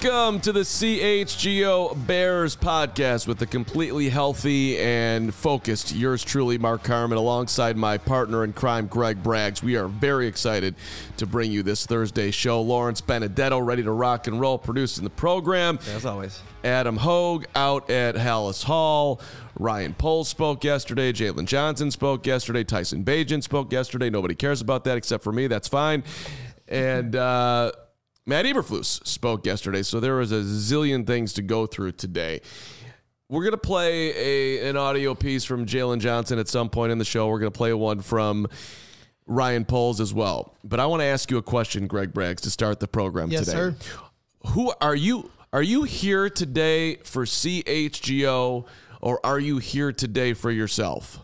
Welcome to the CHGO Bears podcast with the completely healthy and focused yours truly, Mark Carman, alongside my partner in crime, Greg Braggs. We are very excited to bring you this Thursday show. Lawrence Benedetto ready to rock and roll, producing the program. As always. Adam Hogue out at Hallis Hall. Ryan Poles spoke yesterday. Jalen Johnson spoke yesterday. Tyson Bagent spoke yesterday. Nobody cares about that except for me. That's fine. And Matt Eberflus spoke yesterday, so there was a zillion things to go through today. We're going to play an audio piece from Jalen Johnson at some point in the show. We're going to play one from Ryan Poles as well. But I want to ask you a question, Greg Braggs, to start the program today. Yes, sir. Who are you? Are you here today for CHGO, or are you here today for yourself?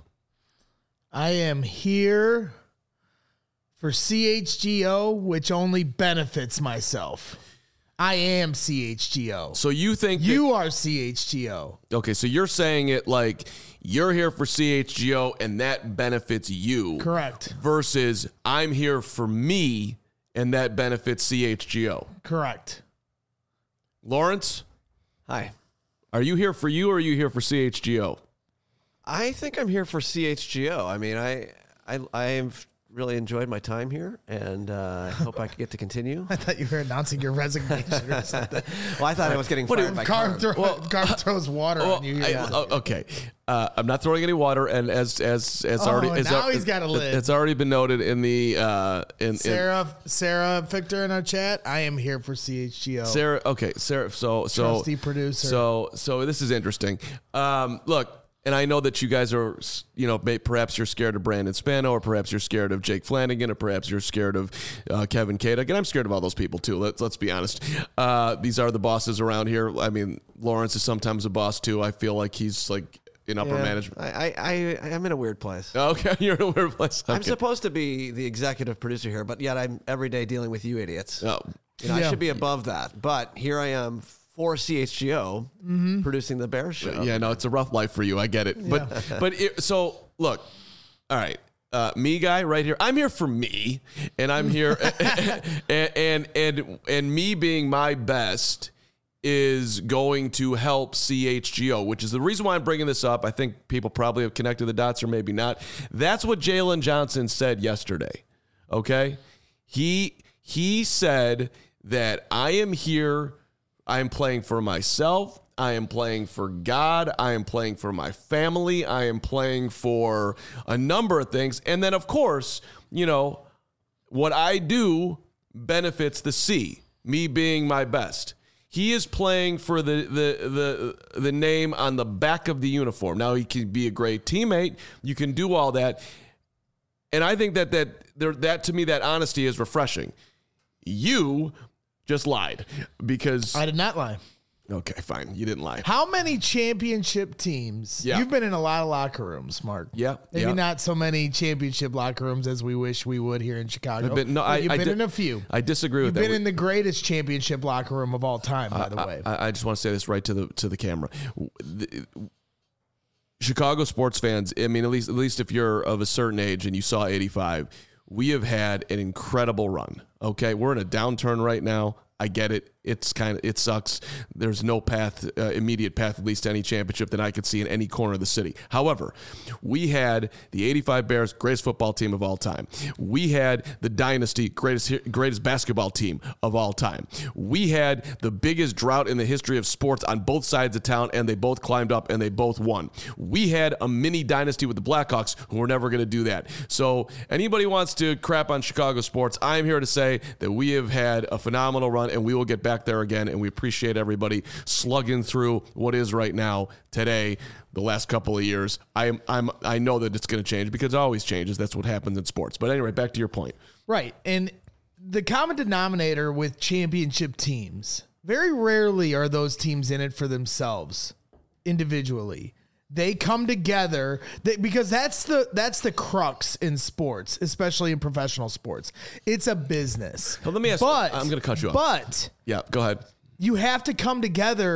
I am here for CHGO, which only benefits myself. I am CHGO. So you think you are CHGO. Okay, so you're saying it like you're here for CHGO and that benefits you. Correct. Versus I'm here for me and that benefits CHGO. Correct. Lawrence? Hi. Are you here for you or are you here for CHGO? I think I'm here for CHGO. I mean, I've really enjoyed my time here, and I hope I get to continue. I thought you were announcing your resignation or something. Well, I thought I was getting fired by Carm. Carm throws water on you. Okay. I'm not throwing any water, and as already now he's got a lid. It's already been noted in the Sarah Victor in our chat. I am here for CHGO. Sarah. So trusty producer. So this is interesting. Look. And I know that you guys are, perhaps you're scared of Brandon Spano, or perhaps you're scared of Jake Flanagan, or perhaps you're scared of Kevin Kadek. And I'm scared of all those people, too. Let's be honest. These are the bosses around here. I mean, Lawrence is sometimes a boss, too. I feel like he's like in upper management. I'm in a weird place. Okay, you're in a weird place. Okay. I'm supposed to be the executive producer here, but yet I'm every day dealing with you idiots. Oh. I should be above that. But here I am for CHGO, producing the Bears show. Yeah, no, it's a rough life for you. I get it. Yeah. So look, all right, me guy right here. I'm here for me, and I'm here, and me being my best is going to help CHGO, which is the reason why I'm bringing this up. I think people probably have connected the dots, or maybe not. That's what Jalen Johnson said yesterday. Okay, he said that I am here. I am playing for myself. I am playing for God. I am playing for my family. I am playing for a number of things. And then, of course, what I do benefits the C, me being my best. He is playing for the name on the back of the uniform. Now, he can be a great teammate. You can do all that. And I think that to me, that honesty is refreshing. You just lied because I did not lie. Okay, fine. You didn't lie. How many championship teams? Yeah. You've been in a lot of locker rooms, Mark. Yeah. Maybe not so many championship locker rooms as we wish we would here in Chicago. You've been in a few. I disagree with that. You've been in the greatest championship locker room of all time, by the way. I just want to say this right to the camera. Chicago sports fans, I mean, at least if you're of a certain age and you saw 85, we have had an incredible run. Okay, we're in a downturn right now. I get it. It sucks. There's no immediate path, at least to any championship that I could see in any corner of the city. However, we had the 85 Bears, greatest football team of all time. We had the Dynasty, greatest basketball team of all time. We had the biggest drought in the history of sports on both sides of town, and they both climbed up and they both won. We had a mini dynasty with the Blackhawks, who were never going to do that. So anybody wants to crap on Chicago sports, I'm here to say that we have had a phenomenal run, and we will get back there again, and we appreciate everybody slugging through what is right now, today, the last couple of years. I know that it's going to change because it always changes. That's what happens in sports. But anyway, back to your point. Right. And the common denominator with championship teams, very rarely are those teams in it for themselves individually. They come together because that's the crux in sports, especially in professional sports. It's a business. Well, let me ask. I'm going to cut you off. But yeah, go ahead. You have to come together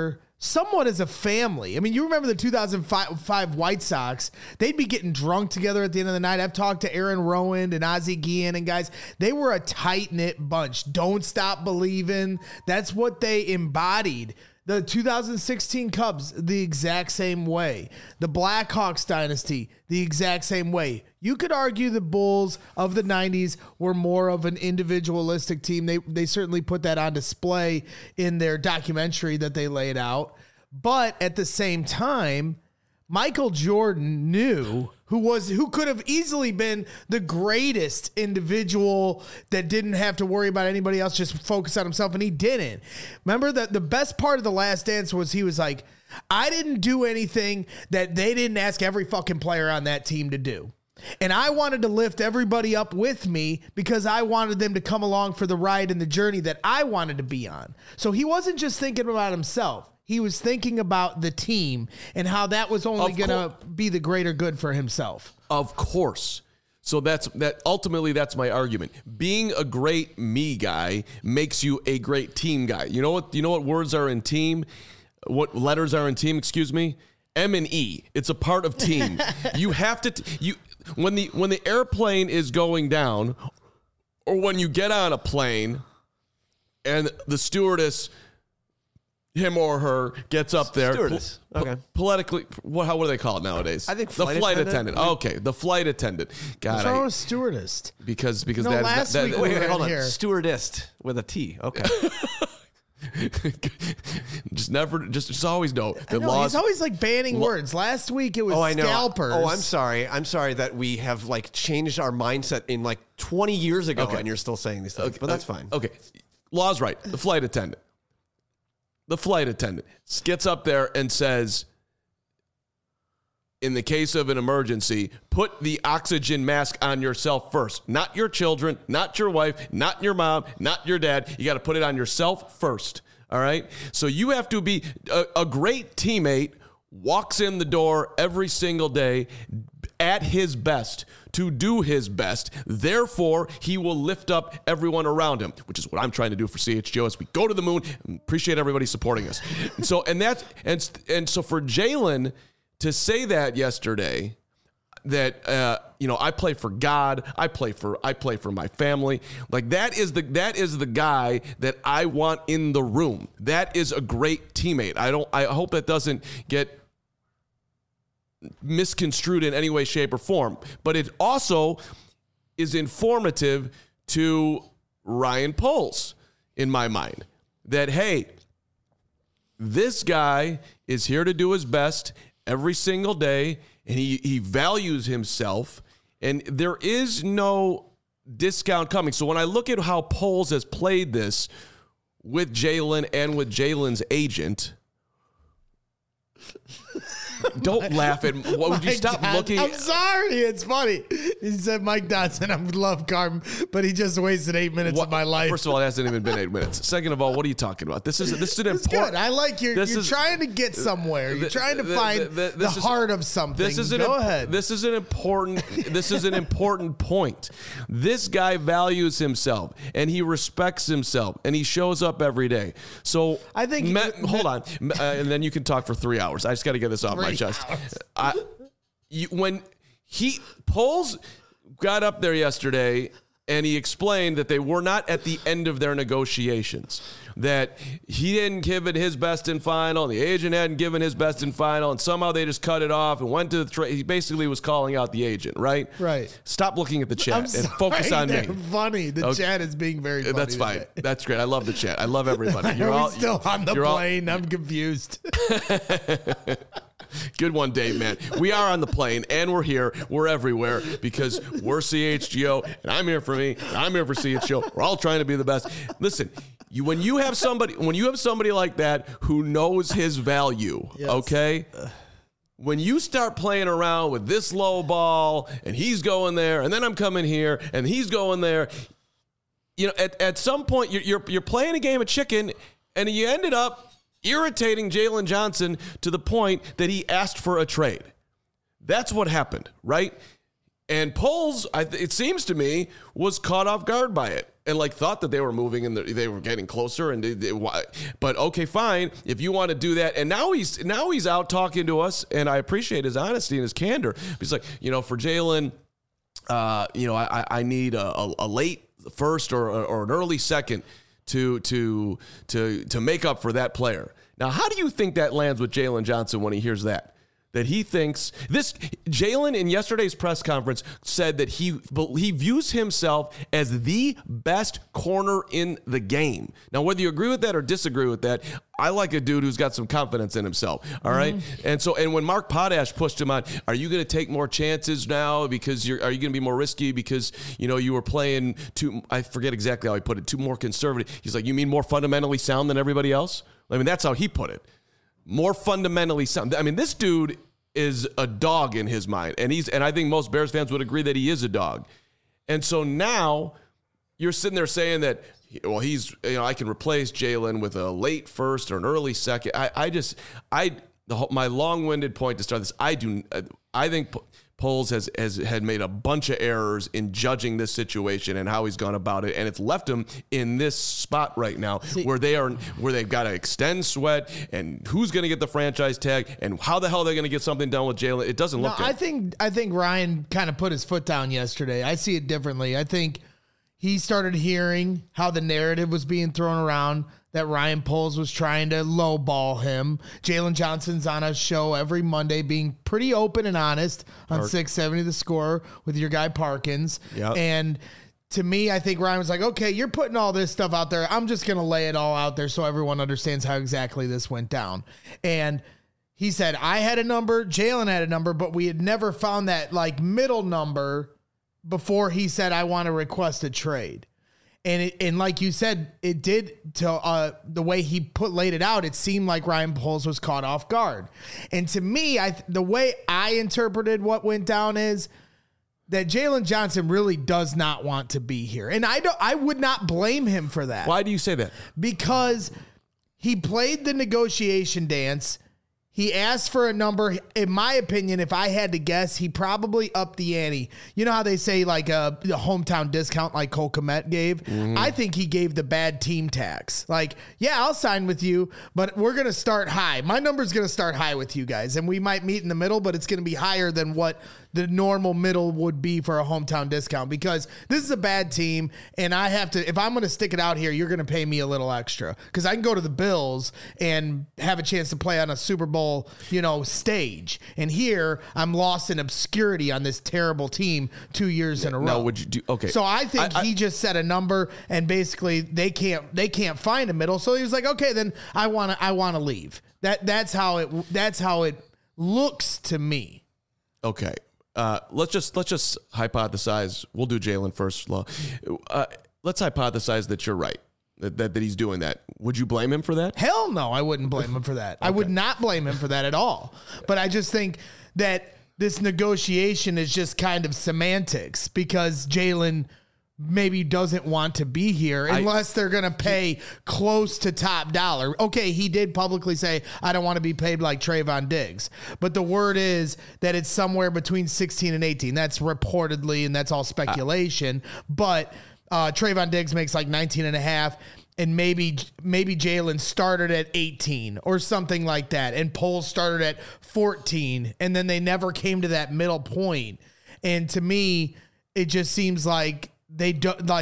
somewhat as a family. I mean, you remember the 2005 White Sox, they'd be getting drunk together at the end of the night. I've talked to Aaron Rowand and Ozzie Guillen and guys. They were a tight-knit bunch. Don't stop believing. That's what they embodied. The 2016 Cubs, the exact same way. The Blackhawks dynasty, the exact same way. You could argue the Bulls of the 90s were more of an individualistic team. They certainly put that on display in their documentary that they laid out. But at the same time, Michael Jordan knew who could have easily been the greatest individual that didn't have to worry about anybody else, just focus on himself, and he didn't. Remember that the best part of The Last Dance was he was like, I didn't do anything that they didn't ask every fucking player on that team to do. And I wanted to lift everybody up with me because I wanted them to come along for the ride and the journey that I wanted to be on. So he wasn't just thinking about himself. He was thinking about the team and how that was only going to be the greater good for himself. Of course. So ultimately that's my argument. Being a great me guy makes you a great team guy. You know what words are in team? What letters are in team, excuse me? M and E. It's a part of team. You have to when the airplane is going down, or when you get on a plane and the stewardess, him or her, gets up there. Stewardess. Okay. Politically, what do they call it nowadays? I think the flight attendant. Okay, the flight attendant. God, What's wrong with stewardess? Because No, that last that, week that, we Wait, were hold on. here. Stewardess with a T. Okay. just always know the No, laws. he's always like banning words. Last week it was I know. scalpers. Oh, I'm sorry. I'm sorry that we have like changed our mindset in like 20 years ago, Okay. and you're still saying these things. But that's fine. Okay, law's right. The flight attendant gets up there and says, in the case of an emergency, put the oxygen mask on yourself first. Not your children, not your wife, not your mom, not your dad. You got to put it on yourself first. All right? So you have to be a great teammate, walks in the door every single day at his best to do his best. Therefore, he will lift up everyone around him, which is what I'm trying to do for CHGO as we go to the moon. Appreciate everybody supporting us. And so for Jalen to say that yesterday, that I play for God, I play for my family, like that is the guy that I want in the room. That is a great teammate. I hope that doesn't get misconstrued in any way, shape, or form. But it also is informative to Ryan Poles in my mind that, hey, this guy is here to do his best every single day, and he values himself, and there is no discount coming. So when I look at how Poles has played this with Jalen and with Jalen's agent, don't laugh at me. Would you stop looking? I'm sorry. It's funny. He said Mike Dotson. I love Carm, but he just wasted 8 minutes of my life. First of all, it hasn't even been 8 minutes. Second of all, what are you talking about? This is an It's important. good. I like you're trying to get somewhere. You're trying to find the heart of something. Go ahead. This is an important point. This guy values himself and he respects himself and he shows up every day. So I think hold on, and then you can talk for 3 hours. I just got to get this off my chest. When Poles got up there yesterday and he explained that they were not at the end of their negotiations, that he didn't give it his best in final, and the agent hadn't given his best in final, and somehow they just cut it off and went to the trade. He basically was calling out the agent, right? Right. Stop looking at the chat I'm and sorry, focus on me. they're funny. The chat is being very funny. That's fine. today. That's great. I love the chat. I love everybody. Are we still on the plane? I'm confused. Good one, Dave, man. We are on the plane, and we're here. We're everywhere because we're CHGO, and I'm here for me, and I'm here for CHGO. We're all trying to be the best. Listen, when you have somebody like that who knows his value, Yes. okay? When you start playing around with this low ball, and he's going there, and then I'm coming here, and he's going there, at some point you're playing a game of chicken, and you ended up irritating Jalen Johnson to the point that he asked for a trade. That's what happened, right? And Poles, it seems to me, was caught off guard by it. and like thought that they were moving and they were getting closer. But okay, fine. If you want to do that, and now he's out talking to us, and I appreciate his honesty and his candor. He's like, for Jalen, I need a late first or an early second to make up for that player. Now, how do you think that lands with Jalen Johnson when he hears that? That he thinks this. Jalen in yesterday's press conference said that he views himself as the best corner in the game. Now, whether you agree with that or disagree with that, I like a dude who's got some confidence in himself. All right, and when Mark Potash pushed him on, are you going to take more chances now because are you going to be more risky because you were playing too? I forget exactly how he put it. Too more conservative. He's like, you mean more fundamentally sound than everybody else? I mean, that's how he put it. More fundamentally sound. I mean, this dude is a dog in his mind, and I think most Bears fans would agree that he is a dog. And so now you're sitting there saying that, well, I can replace Jalen with a late first or an early second. My long-winded point to start this, I think Poles had made a bunch of errors in judging this situation and how he's gone about it, and it's left him in this spot right now where they've got to extend Sweat, and who's going to get the franchise tag, and how the hell are they going to get something done with Jalen? It doesn't look good. I think Ryan kind of put his foot down yesterday. I see it differently. I think he started hearing how the narrative was being thrown around that Ryan Poles was trying to lowball him. Jalen Johnson's on a show every Monday being pretty open and honest on 670 The Score with your guy Parkins. Yep. And to me, I think Ryan was like, okay, you're putting all this stuff out there. I'm just going to lay it all out there so everyone understands how exactly this went down. And he said, I had a number, Jalen had a number, but we had never found that like middle number before he said, I want to request a trade. And like you said, it did to the way he laid it out. It seemed like Ryan Poles was caught off guard. And to me, the way I interpreted what went down is that Jalen Johnson really does not want to be here, and I would not blame him for that. Why do you say that? Because he played the negotiation dance. He asked for a number. In my opinion, if I had to guess, he probably upped the ante. You know how they say like the hometown discount like Cole Kmet gave? Mm-hmm. I think he gave the bad team tax. Like, yeah, I'll sign with you, but we're going to start high. My number's going to start high with you guys, and we might meet in the middle, but it's going to be higher than what the normal middle would be for a hometown discount because this is a bad team, and I have to, if I'm going to stick it out here, you're going to pay me a little extra because I can go to the Bills and have a chance to play on a Super Bowl stage. And here I'm lost in obscurity on this terrible team 2 years in a row. Now, would you do okay? So I think he just set a number, and basically they can't find a middle. So he was like, okay, then I want to leave. That's how it looks to me. Okay. Let's just hypothesize. We'll do Jalen first. Let's hypothesize that you're right. That he's doing that. Would you blame him for that? Hell no, I wouldn't blame him for that. Okay. I would not blame him for that at all. But I just think that this negotiation is just kind of semantics because Jalen maybe doesn't want to be here unless they're going to pay close to top dollar. Okay, he did publicly say, I don't want to be paid like Trayvon Diggs. But the word is that it's somewhere between 16 and 18. That's reportedly, and that's all speculation. But Trayvon Diggs makes like 19 and a half, and maybe Jalen started at 18 or something like that, and Poles started at 14, and then they never came to that middle point. And to me, it just seems like they're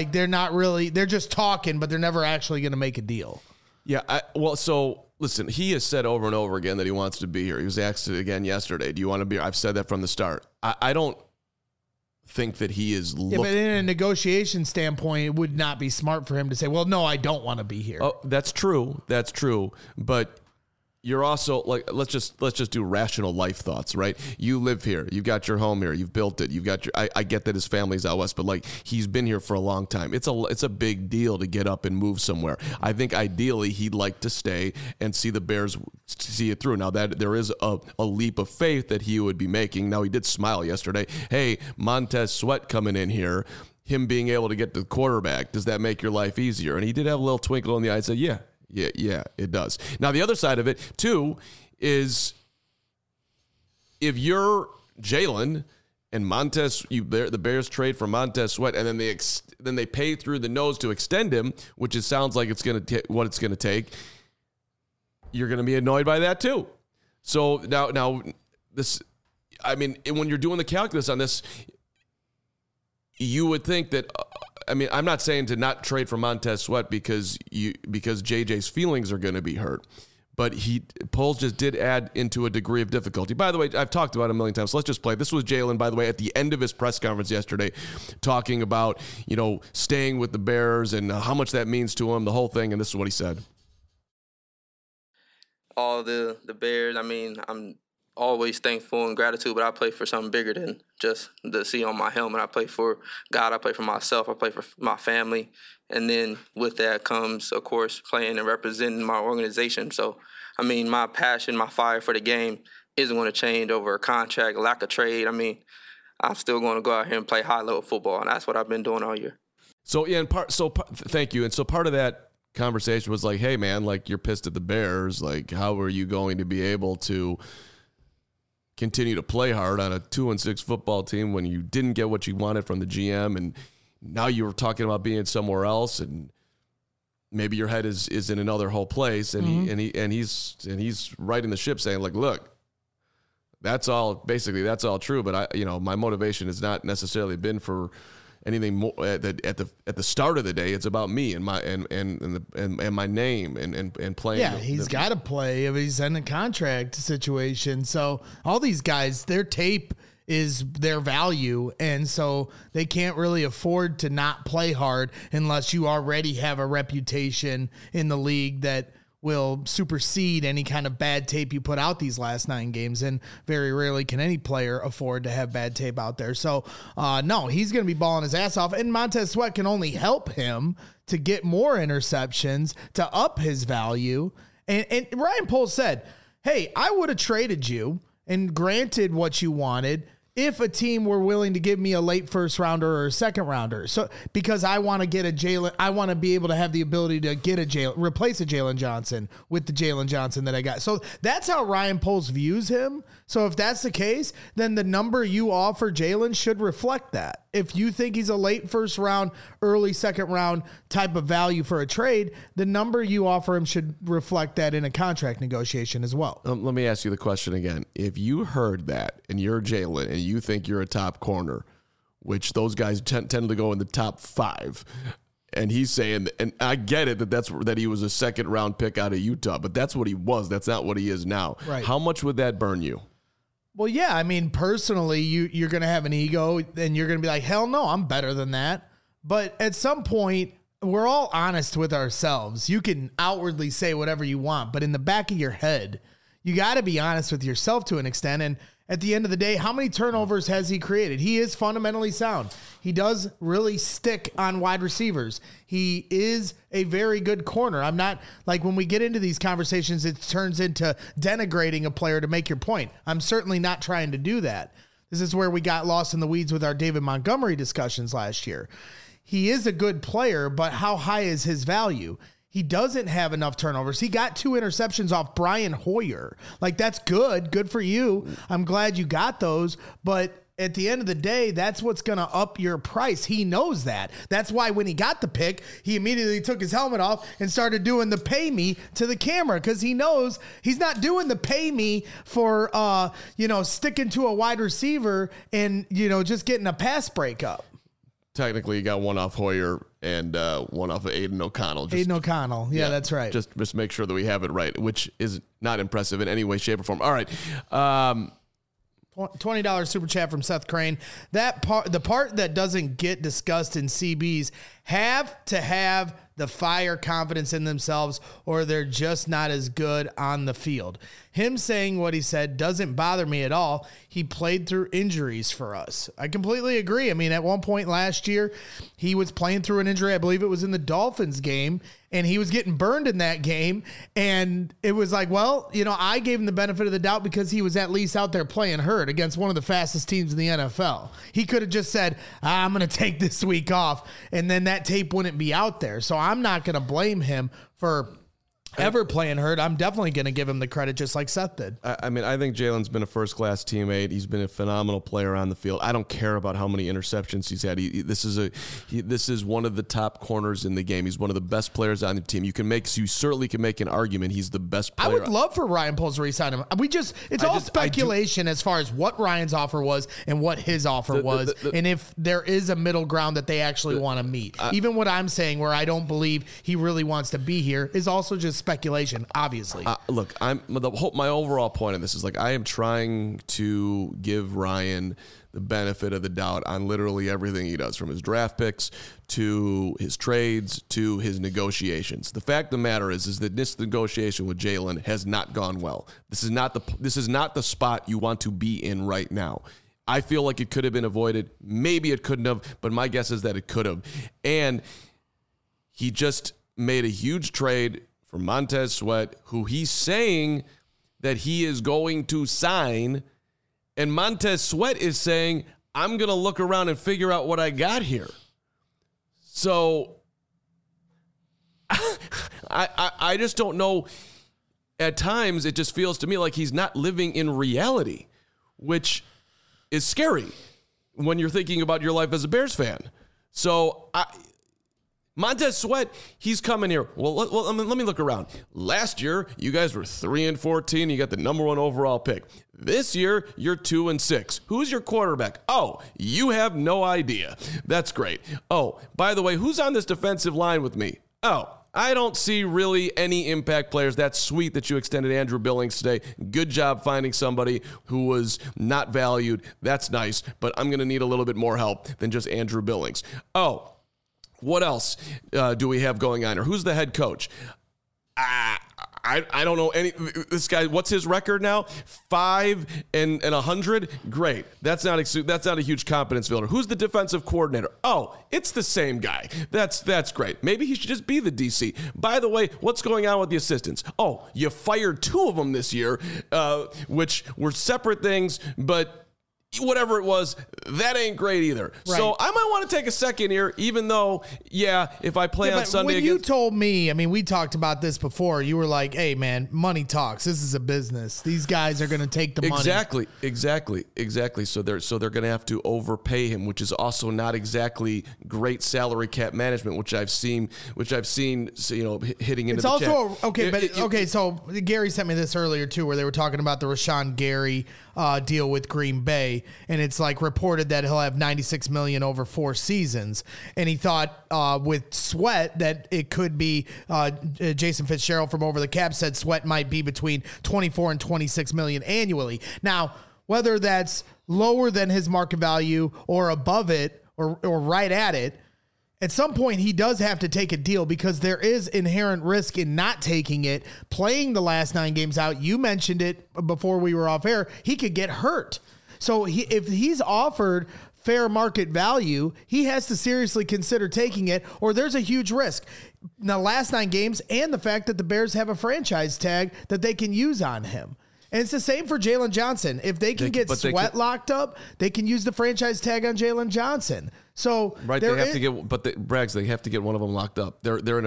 just talking, but they're never actually going to make a deal. Yeah. So listen, he has said over and over again that he wants to be here. He was asked it again yesterday. Do you want to be here? I've said that from the start. I don't think that he is but in a negotiation standpoint, it would not be smart for him to say, well, no, I don't want to be here. Oh, that's true. But you're also like, let's just do rational life thoughts, right? You live here. You've got your home here. You've built it. You've got I get that his family's out west, but like he's been here for a long time. It's a big deal to get up and move somewhere. I think ideally he'd like to stay and see the Bears see it through. Now that there is a leap of faith that he would be making. Now he did smile yesterday. Hey, Montez Sweat coming in here, him being able to get to the quarterback. Does that make your life easier? And he did have a little twinkle in the eye and said, yeah, it does. Now, the other side of it, too, is if you're Jalen and the Bears trade for Montez Sweat, and then they pay through the nose to extend him, which sounds like it's going to what it's going to take. You're going to be annoyed by that too. So now this, I mean, when you're doing the calculus on this, you would think that. I mean, I'm not saying to not trade for Montez Sweat because JJ's feelings are going to be hurt. But Poles just did add into a degree of difficulty. By the way, I've talked about it a million times. So let's just play. This was Jalen, by the way, at the end of his press conference yesterday, talking about, staying with the Bears and how much that means to him, the whole thing. And this is what he said. All the Bears, I mean, I'm always thankful and gratitude, but I play for something bigger than just the C on my helmet. I play for God. I play for myself. I play for my family. And then with that comes, of course, playing and representing my organization. So, I mean, my passion, my fire for the game isn't going to change over a contract, lack of trade. I mean, I'm still going to go out here and play high-level football, and that's what I've been doing all year. So, yeah, thank you. And so part of that conversation was like, hey, man, like, you're pissed at the Bears. Like, how are you going to be able to continue to play hard on a 2-6 football team when you didn't get what you wanted from the GM, and now you were talking about being somewhere else, and maybe your head is in another whole place, and he's writing the ship saying, like, look, that's all true, but my motivation has not necessarily been for anything more at the start of the day. It's about me and my and my name and playing. Yeah, he's got to play if he's in a contract situation. So all these guys, their tape is their value, and so they can't really afford to not play hard unless you already have a reputation in the league that will supersede any kind of bad tape you put out these last 9 games, and very rarely can any player afford to have bad tape out there. So, no, he's going to be balling his ass off, and Montez Sweat can only help him to get more interceptions, to up his value. And Ryan Poles said, hey, I would have traded you and granted what you wanted if a team were willing to give me a late first rounder or a second rounder. So, because I want to get a Jalen, I want to be able to have the ability to get replace a Jalen Johnson with the Jalen Johnson that I got. So that's how Ryan Poles views him. So if that's the case, then the number you offer Jalen should reflect that. If you think he's a late first round, early second round type of value for a trade, the number you offer him should reflect that in a contract negotiation as well. Let me ask you the question again. If you heard that and you're Jalen and you think you're a top corner, which those guys tend to go in the top 5, and he's saying, and I get it that he was a second round pick out of Utah, but that's what he was. That's not what he is now. Right. How much would that burn you? Well, yeah, I mean, personally, you're going to have an ego, and you're going to be like, hell no, I'm better than that. But at some point, we're all honest with ourselves. You can outwardly say whatever you want, but in the back of your head, you got to be honest with yourself to an extent. And at the end of the day, how many turnovers has he created? He is fundamentally sound. He does really stick on wide receivers. He is a very good corner. I'm not, like, when we get into these conversations, it turns into denigrating a player to make your point. I'm certainly not trying to do that. This is where we got lost in the weeds with our David Montgomery discussions last year. He is a good player, but how high is his value? He doesn't have enough turnovers. He got 2 interceptions off Brian Hoyer. Like, that's good. Good for you. I'm glad you got those. But at the end of the day, that's what's going to up your price. He knows that. That's why when he got the pick, he immediately took his helmet off and started doing the pay me to the camera, because he knows he's not doing the pay me for, sticking to a wide receiver and, just getting a pass breakup. Technically, you got one off Hoyer and one off of Aiden O'Connell. Aiden O'Connell. Yeah, that's right. Just make sure that we have it right, which is not impressive in any way, shape, or form. All right. $20 super chat from Seth Crane. The part that doesn't get discussed in CBs have to have the fire confidence in themselves, or they're just not as good on the field. Him saying what he said doesn't bother me at all. He played through injuries for us. I completely agree. I mean, at one point last year, he was playing through an injury. I believe it was in the Dolphins game, and he was getting burned in that game. And it was like, well, I gave him the benefit of the doubt because he was at least out there playing hurt against one of the fastest teams in the NFL. He could have just said, I'm going to take this week off, and then that tape wouldn't be out there. So I'm not going to blame him for ever playing hurt, I'm definitely going to give him the credit just like Seth did. I mean, I think Jalen's been a first-class teammate. He's been a phenomenal player on the field. I don't care about how many interceptions he's had. This is one of the top corners in the game. He's one of the best players on the team. You certainly can make an argument he's the best player. I would love for Ryan Poles to re-sign him. It's all speculation as far as what Ryan's offer was and what his offer was, and if there is a middle ground that they actually want to meet. Even what I'm saying, where I don't believe he really wants to be here, is also just speculation, obviously. Look, my overall point of this is I am trying to give Ryan the benefit of the doubt on literally everything he does, from his draft picks to his trades to his negotiations. The fact of the matter is that this negotiation with Jalen has not gone well. This is not the spot you want to be in right now. I feel like it could have been avoided. Maybe it couldn't have, but my guess is that it could have. And he just made a huge trade for Montez Sweat, who he's saying that he is going to sign. And Montez Sweat is saying, I'm going to look around and figure out what I got here. So I just don't know. At times, it just feels to me like he's not living in reality, which is scary when you're thinking about your life as a Bears fan. So Montez Sweat, he's coming here. Well, let me look around. Last year, you guys were 3-14. You got the number 1 overall pick. This year, you're 2-6. Who's your quarterback? Oh, you have no idea. That's great. Oh, by the way, who's on this defensive line with me? Oh, I don't see really any impact players. That's sweet that you extended Andrew Billings today. Good job finding somebody who was not valued. That's nice, but I'm going to need a little bit more help than just Andrew Billings. Oh, what else do we have going on here? Who's the head coach? I don't know any. This guy, what's his record now? 5-100. Great. That's not a huge confidence builder. Who's the defensive coordinator? Oh, it's the same guy. That's great. Maybe he should just be the DC. By the way, what's going on with the assistants? Oh, you fired 2 of them this year, which were separate things, but whatever it was, that ain't great either. Right. So I might want to take a second here, even though, if I play on Sunday when you told me, we talked about this before, you were like, hey, man, money talks. This is a business. These guys are going to take the money. Exactly. So they're going to have to overpay him, which is also not exactly great salary cap management, which I've seen, hitting into it's the also, check. So Gary sent me this earlier, too, where they were talking about the Rashawn Gary deal with Green Bay. And it's reported that he'll have $96 million over 4 seasons. And he thought with Sweat that it could be Jason Fitzgerald from Over the Cap said Sweat might be between $24 and $26 million annually. Now, whether that's lower than his market value or above it or right at it, at some point, he does have to take a deal because there is inherent risk in not taking it, playing the last 9 games out. You mentioned it before we were off air. He could get hurt. So if he's offered fair market value, he has to seriously consider taking it, or there's a huge risk. Now, last 9 games and the fact that the Bears have a franchise tag that they can use on him. And it's the same for Jalen Johnson. If they can get Sweat locked up, they can use the franchise tag on Jalen Johnson. So right, they have to get, but Braggs, they have to get one of them locked up. They're in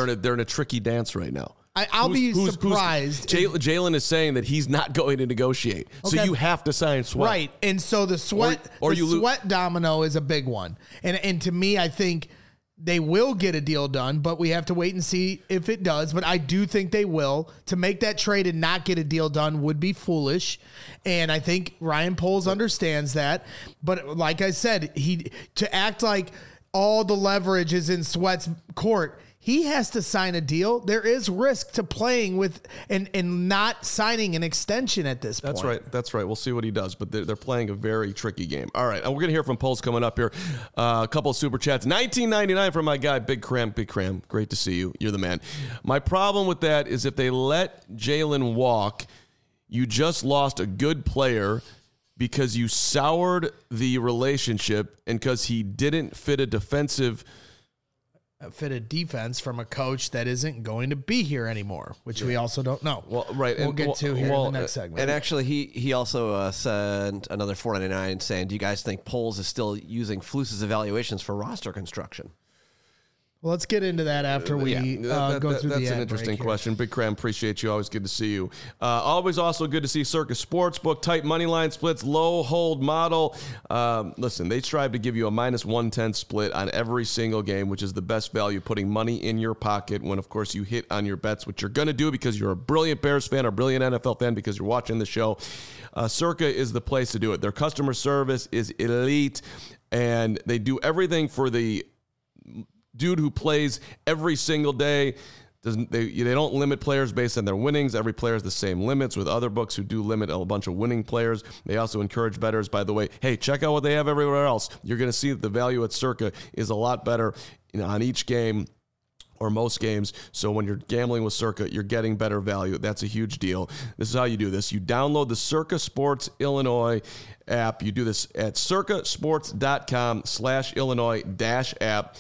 a tricky dance right now. I'll be surprised. Jalen is saying that he's not going to negotiate, so you have to sign Sweat, right? And so the Sweat, Sweat domino is a big one. And to me, I think they will get a deal done, but we have to wait and see if it does. But I do think they will. To make that trade and not get a deal done would be foolish. And I think Ryan Poles understands that. But like I said, to act like all the leverage is in Sweat's court, he has to sign a deal. There is risk to playing with and not signing an extension at this point. That's right. We'll see what he does, but they're playing a very tricky game. All right, we're going to hear from Poles coming up here. A couple of super chats. $19.99 from my guy, Big Cram. Great to see you. You're the man. My problem with that is if they let Jalen walk, you just lost a good player because you soured the relationship and because he didn't fit a defense from a coach that isn't going to be here anymore, which we also don't know. Well, right. We'll get to here in the next segment. And actually, he also sent another $4.99 saying, do you guys think Poles is still using Flus's evaluations for roster construction? Well, let's get into that after we go through that's the ad an interesting break question. Big Cram, appreciate you. Always good to see you. Always also good to see Circa Sportsbook, tight money line splits, low hold model. Listen, they strive to give you a -110 split on every single game, which is the best value, putting money in your pocket when, of course, you hit on your bets, which you're going to do because you're a brilliant Bears fan or brilliant NFL fan because you're watching the show. Circa is the place to do it. Their customer service is elite, and they do everything for the dude who plays every single day. They don't limit players based on their winnings. Every player has the same limits, with other books who do limit a bunch of winning players. They also encourage bettors, by the way, hey, check out what they have everywhere else. You're going to see that the value at Circa is a lot better on each game or most games. So when you're gambling with Circa, you're getting better value. That's a huge deal. This is how you do this. You download the Circa Sports Illinois app. You do this at circasports.com/Illinois-app.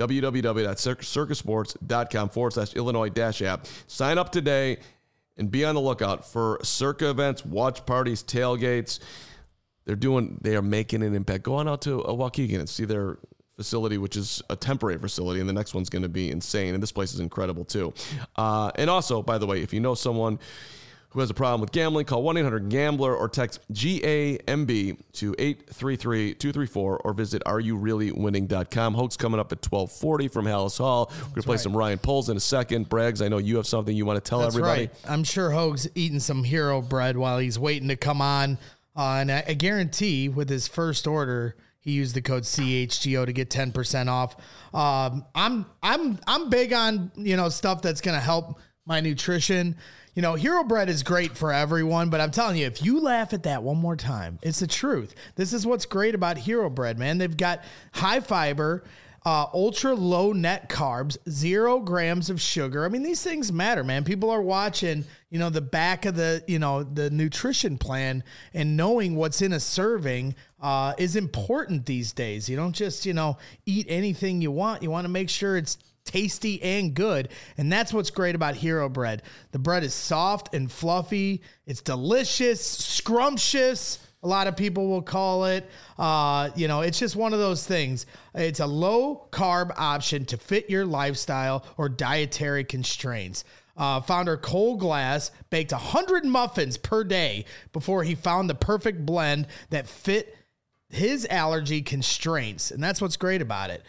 www.circasports.com/Illinois-app. Sign up today and be on the lookout for Circa events, watch parties, tailgates. They are making an impact. Go on out to Waukegan and see their facility, which is a temporary facility, and the next one's going to be insane. And this place is incredible too. And also, by the way, if you know someone who has a problem with gambling, call 1-800-GAMBLER or text GAMB to 833-234 or visit areyoureallywinning.com. Hoke's coming up at 12:40 from Hallis Hall. We're going to play some Ryan Poles in a second. Braggs, I know you have something you want to tell everybody. Right. I'm sure Hoke's eating some hero bread while he's waiting to come on. And I guarantee with his first order, he used the code CHGO to get 10% off. I'm big on, stuff that's going to help my nutrition. Hero Bread is great for everyone, but I'm telling you, if you laugh at that one more time, it's the truth. This is what's great about Hero Bread, man. They've got high fiber, ultra low net carbs, 0 grams of sugar. I mean, these things matter, man. People are watching, the back of the nutrition plan, and knowing what's in a serving is important these days. You don't just, eat anything you want. You want to make sure it's tasty and good. And that's what's great about Hero Bread. The bread is soft and fluffy. It's delicious, scrumptious. A lot of people will call it, it's just one of those things. It's a low carb option to fit your lifestyle or dietary constraints. Founder Cole Glass baked 100 muffins per day before he found the perfect blend that fit his allergy constraints. And that's what's great about it.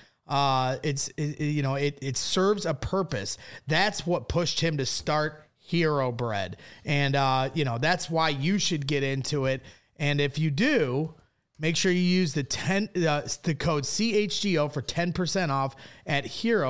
It serves a purpose. That's what pushed him to start Hero Bread. And, that's why you should get into it. And if you do, make sure you use the code CHGO for 10% off at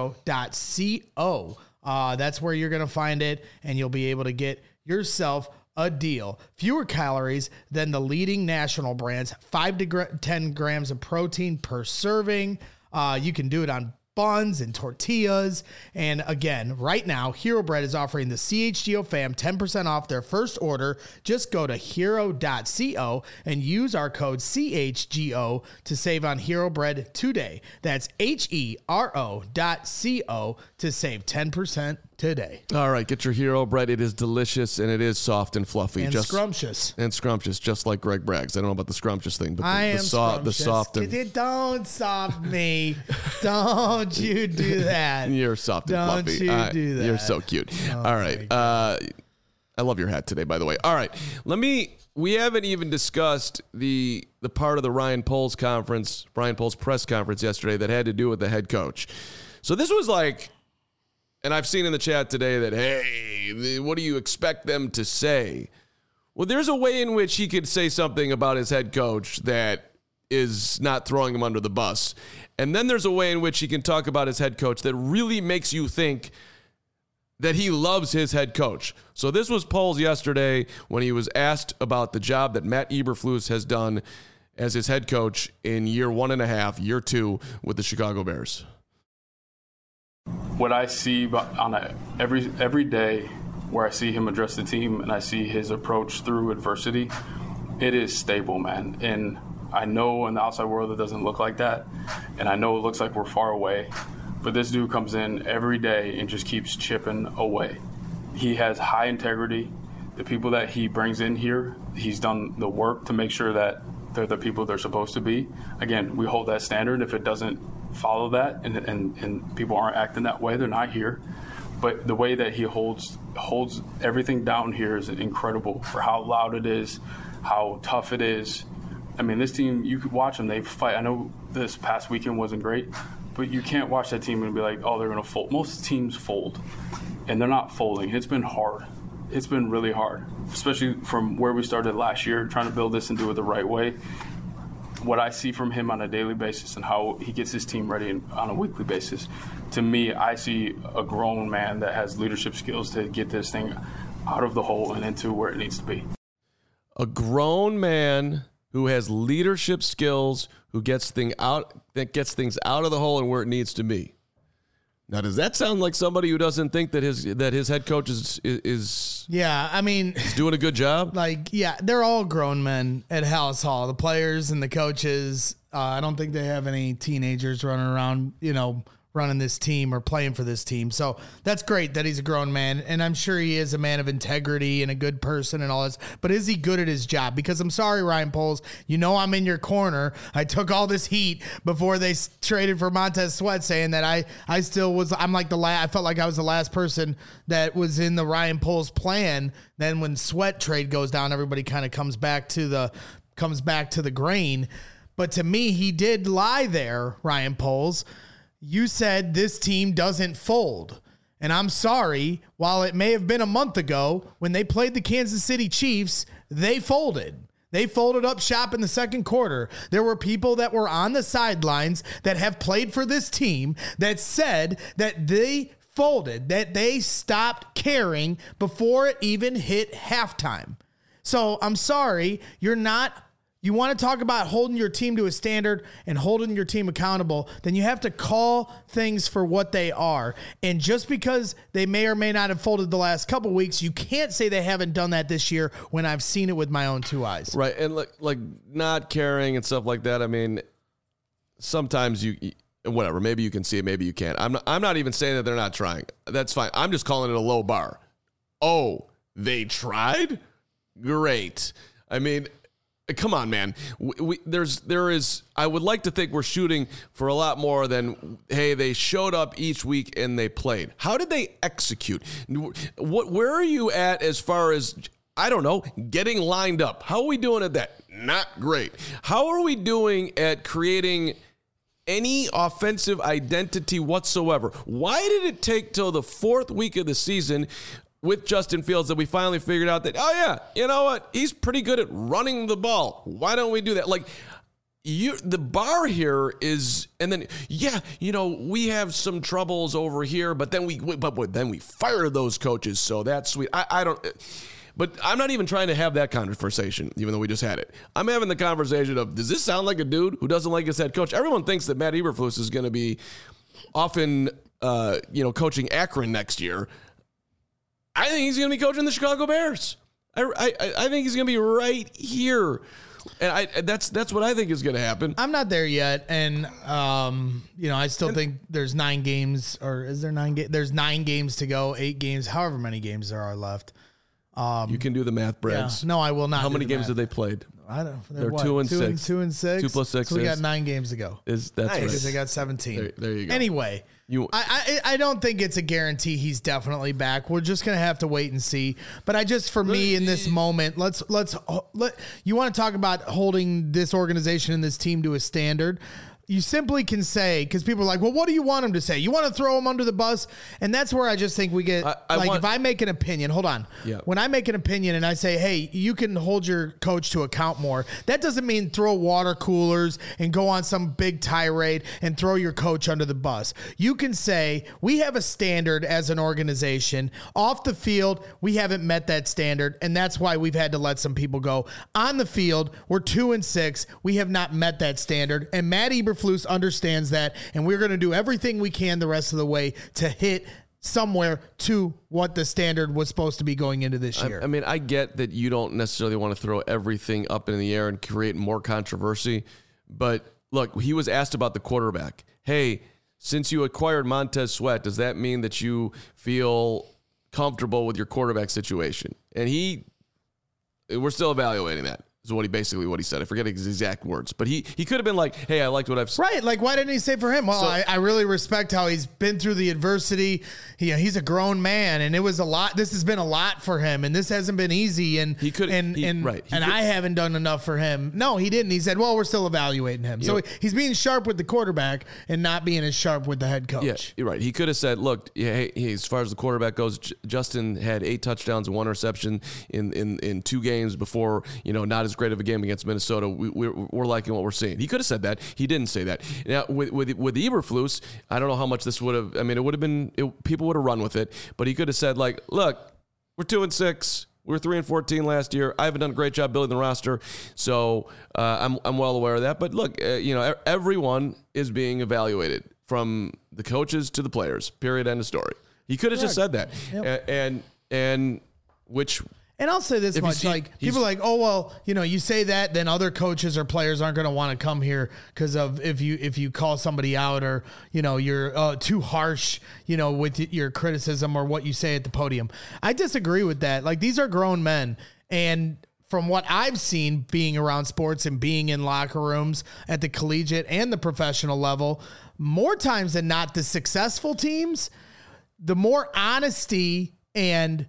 hero.co. That's where you're going to find it, and you'll be able to get yourself a deal. Fewer calories than the leading national brands, 5 to 10 grams of protein per serving. You can do it on buns and tortillas. And again, right now, Hero Bread is offering the CHGO fam 10% off their first order. Just go to hero.co and use our code CHGO to save on Hero Bread today. That's HERO.co to save 10% today. All right, get your Hero Bread. It is delicious, and it is soft and fluffy. And scrumptious. And scrumptious, just like Greg Braggs. I don't know about the scrumptious thing, but the soft. Don't soft me. Don't you do that. You're soft and fluffy. Don't you do that. You're so cute. All right. I love your hat today, by the way. All right. We haven't even discussed the part of the Ryan Poles press conference yesterday that had to do with the head coach. So this was like, and I've seen in the chat today that, hey, what do you expect them to say? Well, there's a way in which he could say something about his head coach that is not throwing him under the bus. And then there's a way in which he can talk about his head coach that really makes you think that he loves his head coach. So this was Poles yesterday when he was asked about the job that Matt Eberflus has done as his head coach in year 1.5, year 2 with the Chicago Bears. What I see on every day where I see him address the team and I see his approach through adversity, it is stable, man. And I know in the outside world it doesn't look like that, and I know it looks like we're far away, but this dude comes in every day and just keeps chipping away. He has high integrity. The people that he brings in here, he's done the work to make sure that they're the people they're supposed to be. Again, we hold that standard. If it doesn't follow that, and people aren't acting that way, they're not here. But the way that he holds everything down here is incredible for how loud it is, how tough it is. I mean, this team, you could watch them, they fight. I know this past weekend wasn't great, but you can't watch that team and be like, oh, they're going to fold. Most teams fold, and they're not folding. It's been hard. It's been really hard, especially from where we started last year, trying to build this and do it the right way. What I see from him on a daily basis and how he gets his team ready on a weekly basis, to me, I see a grown man that has leadership skills to get this thing out of the hole and into where it needs to be. A grown man who has leadership skills, who gets things out of the hole and where it needs to be. Now, does that sound like somebody who doesn't think that his head coach is Yeah, I mean, doing a good job? like, yeah, they're all grown men at Hallis Hall, the players and the coaches. I don't think they have any teenagers running around, running this team or playing for this team. So that's great that he's a grown man, and I'm sure he is a man of integrity and a good person and all this, but is he good at his job? Because I'm sorry, Ryan Poles, I'm in your corner. I took all this heat before they traded for Montez Sweat, saying that I still was, I'm like I felt like I was the last person that was in the Ryan Poles plan. Then when Sweat trade goes down, everybody kind of comes back to the grain. But to me, he did lie there, Ryan Poles. You said this team doesn't fold. And I'm sorry, while it may have been a month ago, when they played the Kansas City Chiefs, they folded. They folded up shop in the second quarter. There were people that were on the sidelines that have played for this team that said that they folded, that they stopped caring before it even hit halftime. So I'm sorry, you want to talk about holding your team to a standard and holding your team accountable, then you have to call things for what they are. And just because they may or may not have folded the last couple weeks, you can't say they haven't done that this year when I've seen it with my own two eyes. Right, and like not caring and stuff like that. I mean, sometimes whatever, maybe you can see it, maybe you can't. I'm not even saying that they're not trying. That's fine. I'm just calling it a low bar. Oh, they tried? Great. I mean, come on, man. There is. I would like to think we're shooting for a lot more than, hey, they showed up each week and they played. How did they execute? Where are you at as far as, I don't know, getting lined up? How are we doing at that? Not great. How are we doing at creating any offensive identity whatsoever? Why did it take till the fourth week of the season with Justin Fields that we finally figured out that, oh yeah, you know what? He's pretty good at running the ball. Why don't we do that? Like, the bar here is, and then, yeah, we have some troubles over here, but then we fire those coaches. So that's sweet. But I'm not even trying to have that conversation, even though we just had it. I'm having the conversation of, does this sound like a dude who doesn't like his head coach? Everyone thinks that Matt Eberflus is going to be often, coaching Akron next year. I think he's going to be coaching the Chicago Bears. I think he's going to be right here. And that's what I think is going to happen. I'm not there yet. And, I still think there's 9 games, or is there 9 games? There's 9 games to go, 8 games, however many games there are left. You can do the math, Brad. Yeah. No, I will not. How many games have they played? I don't know. They're 2 and 6. 2 and 6. 2 plus 6. So we got 9 games to go. That's nice. right. Because they got 17. There you go. Anyway, I don't think it's a guarantee he's definitely back. We're just gonna have to wait and see. But for me in this moment, let's you want to talk about holding this organization and this team to a standard. You simply can say, because people are like, well, what do you want him to say? You want to throw him under the bus? And that's where I just think we get, if I make an opinion, hold on. Yeah. When I make an opinion and I say, hey, you can hold your coach to account more, that doesn't mean throw water coolers and go on some big tirade and throw your coach under the bus. You can say, we have a standard as an organization. Off the field, we haven't met that standard, and that's why we've had to let some people go. On the field, we're 2 and 6. We have not met that standard, and Matt Eberflus understands that, and we're going to do everything we can the rest of the way to hit somewhere to what the standard was supposed to be going into this year. I mean, I get that you don't necessarily want to throw everything up in the air and create more controversy, but look, he was asked about the quarterback. Hey, since you acquired Montez Sweat, does that mean that you feel comfortable with your quarterback situation? And we're still evaluating that. is what he said. I forget his exact words, but he could have been like, hey, I liked what I've seen. Right. Like, why didn't he say for him? Well, I really respect how he's been through the adversity. He's a grown man, and it was a lot. This has been a lot for him, and this hasn't been easy. And he could, I haven't done enough for him. No, he didn't. He said, well, we're still evaluating him. So he's being sharp with the quarterback and not being as sharp with the head coach. Yeah, you're right. He could have said, look, hey, as far as the quarterback goes, Justin had 8 touchdowns and 1 reception in 2 games before, not as great of a game against Minnesota. We're liking what we're seeing. He could have said that. He didn't say that. Now, with Eberflus, I don't know how much this would have, it would have been, people would have run with it, but he could have said, like, look, we're 2-6. We were 3-14 last year. I haven't done a great job building the roster, so I'm well aware of that. But look, everyone is being evaluated, from the coaches to the players. Period. End of story. He could have just said that, and which. And I'll say this much, people are like, oh, well, you say that, then other coaches or players aren't going to want to come here because of if you call somebody out or, you're too harsh, with your criticism or what you say at the podium. I disagree with that. Like, these are grown men. And from what I've seen being around sports and being in locker rooms at the collegiate and the professional level, more times than not, the successful teams, the more honesty and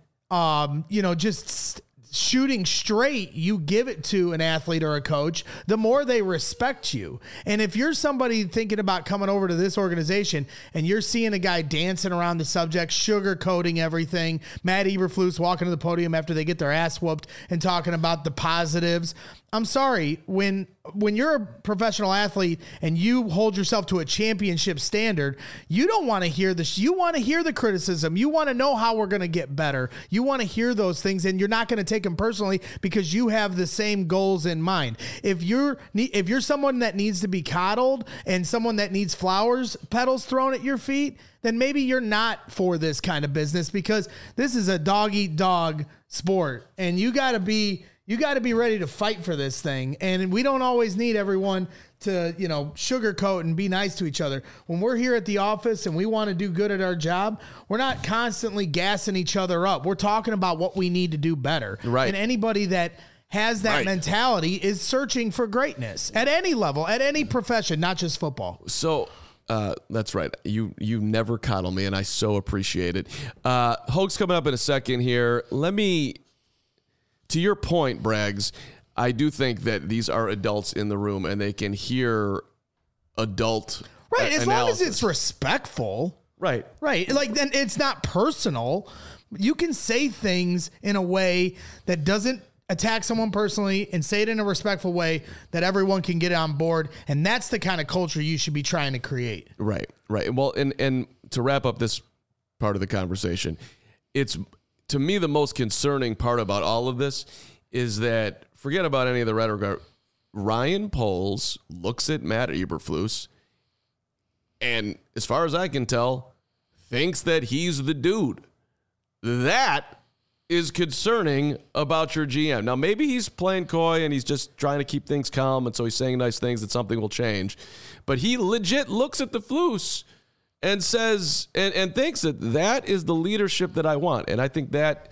just shooting straight you give it to an athlete or a coach, the more they respect you. And if you're somebody thinking about coming over to this organization and you're seeing a guy dancing around the subject, sugarcoating everything, Matt Eberflus walking to the podium after they get their ass whooped and talking about the positives, I'm sorry, when you're a professional athlete and you hold yourself to a championship standard, you don't want to hear this. You want to hear the criticism. You want to know how we're going to get better. You want to hear those things, and you're not going to take them personally because you have the same goals in mind. If you're someone that needs to be coddled and someone that needs petals thrown at your feet, then maybe you're not for this kind of business, because this is a dog-eat-dog sport, and you got to be ready to fight for this thing. And we don't always need everyone to, sugarcoat and be nice to each other. When we're here at the office and we want to do good at our job, we're not constantly gassing each other up. We're talking about what we need to do better. Right. And anybody that has that mentality is searching for greatness at any level, at any profession, not just football. So that's right. You never coddle me, and I so appreciate it. Hoke's coming up in a second here. To your point, Braggs, I do think that these are adults in the room and they can hear adult analysis. As long as it's respectful. Right. Like, then it's not personal. You can say things in a way that doesn't attack someone personally and say it in a respectful way that everyone can get on board. And that's the kind of culture you should be trying to create. Right. Well, and to wrap up this part of the conversation, it's, to me, the most concerning part about all of this is that, forget about any of the rhetoric, Ryan Poles looks at Matt Eberflus and, as far as I can tell, thinks that he's the dude. That is concerning about your GM. Now, maybe he's playing coy and he's just trying to keep things calm, and so he's saying nice things that something will change. But he legit looks at the Flus and says, and thinks that is the leadership that I want. And I think that,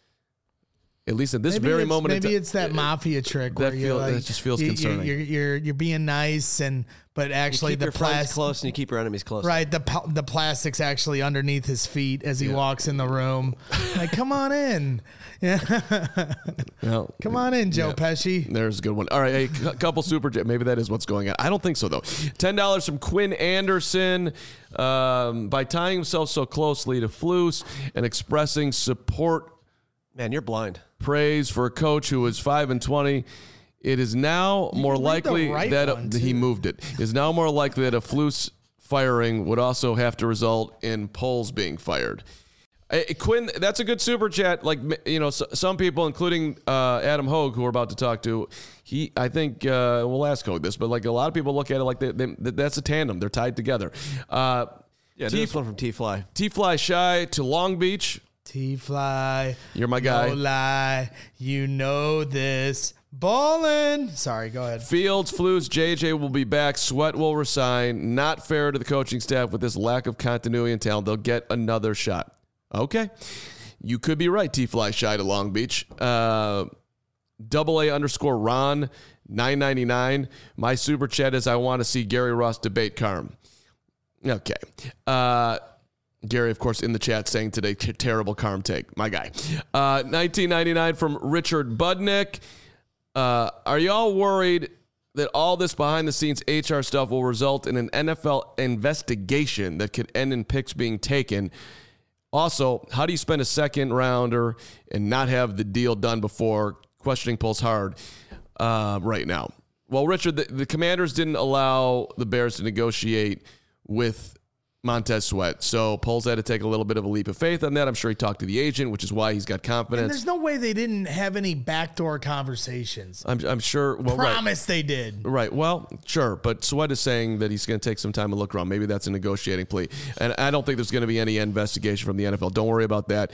at least at this very moment, maybe it's that mafia trick that where that just feels concerning. You're being nice, but actually you keep your friends close and you keep your enemies close. Right, the plastic's actually underneath his feet as he walks in the room. Like, come on in. Yeah. Well, come on in, Joe Pesci. There's a good one. All right, a couple super chat. Maybe that is what's going on. I don't think so, though. $10 from Quinn Anderson. By tying himself so closely to Flus and expressing support. Man, you're blind. Praise for a coach who was 5-20. It is now more likely that he moved it. It is now more likely that a Flus firing would also have to result in Poles being fired. Quinn, that's a good super chat. Like, some people, including Adam Hogue, who we're about to talk to, I think we'll ask Hogue this, but like a lot of people look at it like that's a tandem. They're tied together. This one from T-Fly. T-Fly Shy to Long Beach. T-Fly. You're my guy. No lie. You know this. Ballin'. Sorry, go ahead. Fields, Flus, JJ will be back. Sweat will resign. Not fair to the coaching staff with this lack of continuity and talent. They'll get another shot. Okay. You could be right, T-Fly Shy to Long Beach. AA_Ron 999. My super chat is I want to see Gary Ross debate Carm. Okay. Gary, of course, in the chat saying today, terrible Carm take. My guy. 1999 from Richard Budnick. Are y'all worried that all this behind-the-scenes HR stuff will result in an NFL investigation that could end in picks being taken? Also, how do you spend a second rounder and not have the deal done before? Questioning pulls hard right now. Well, Richard, the Commanders didn't allow the Bears to negotiate with Montez Sweat, so Poles had to take a little bit of a leap of faith on that. I'm sure he talked to the agent, which is why he's got confidence. And there's no way they didn't have any backdoor conversations. I'm sure. Well, Promise they did. Right. Well, sure. But Sweat is saying that he's going to take some time to look around. Maybe that's a negotiating plea. And I don't think there's going to be any investigation from the NFL. Don't worry about that.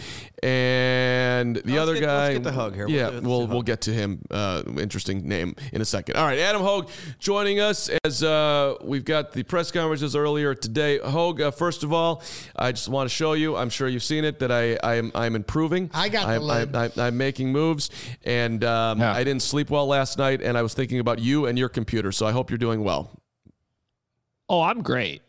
And the other guy. Let's get the Hogue here. Yeah, we'll get to him. Interesting name in a second. All right. Adam Hogue joining us as we've got the press conferences earlier today. Hogue, first of all, I just want to show you, I'm sure you've seen it, that I'm improving. I got the lid. I'm making moves, and I didn't sleep well last night, and I was thinking about you and your computer, so I hope you're doing well. Oh, I'm great.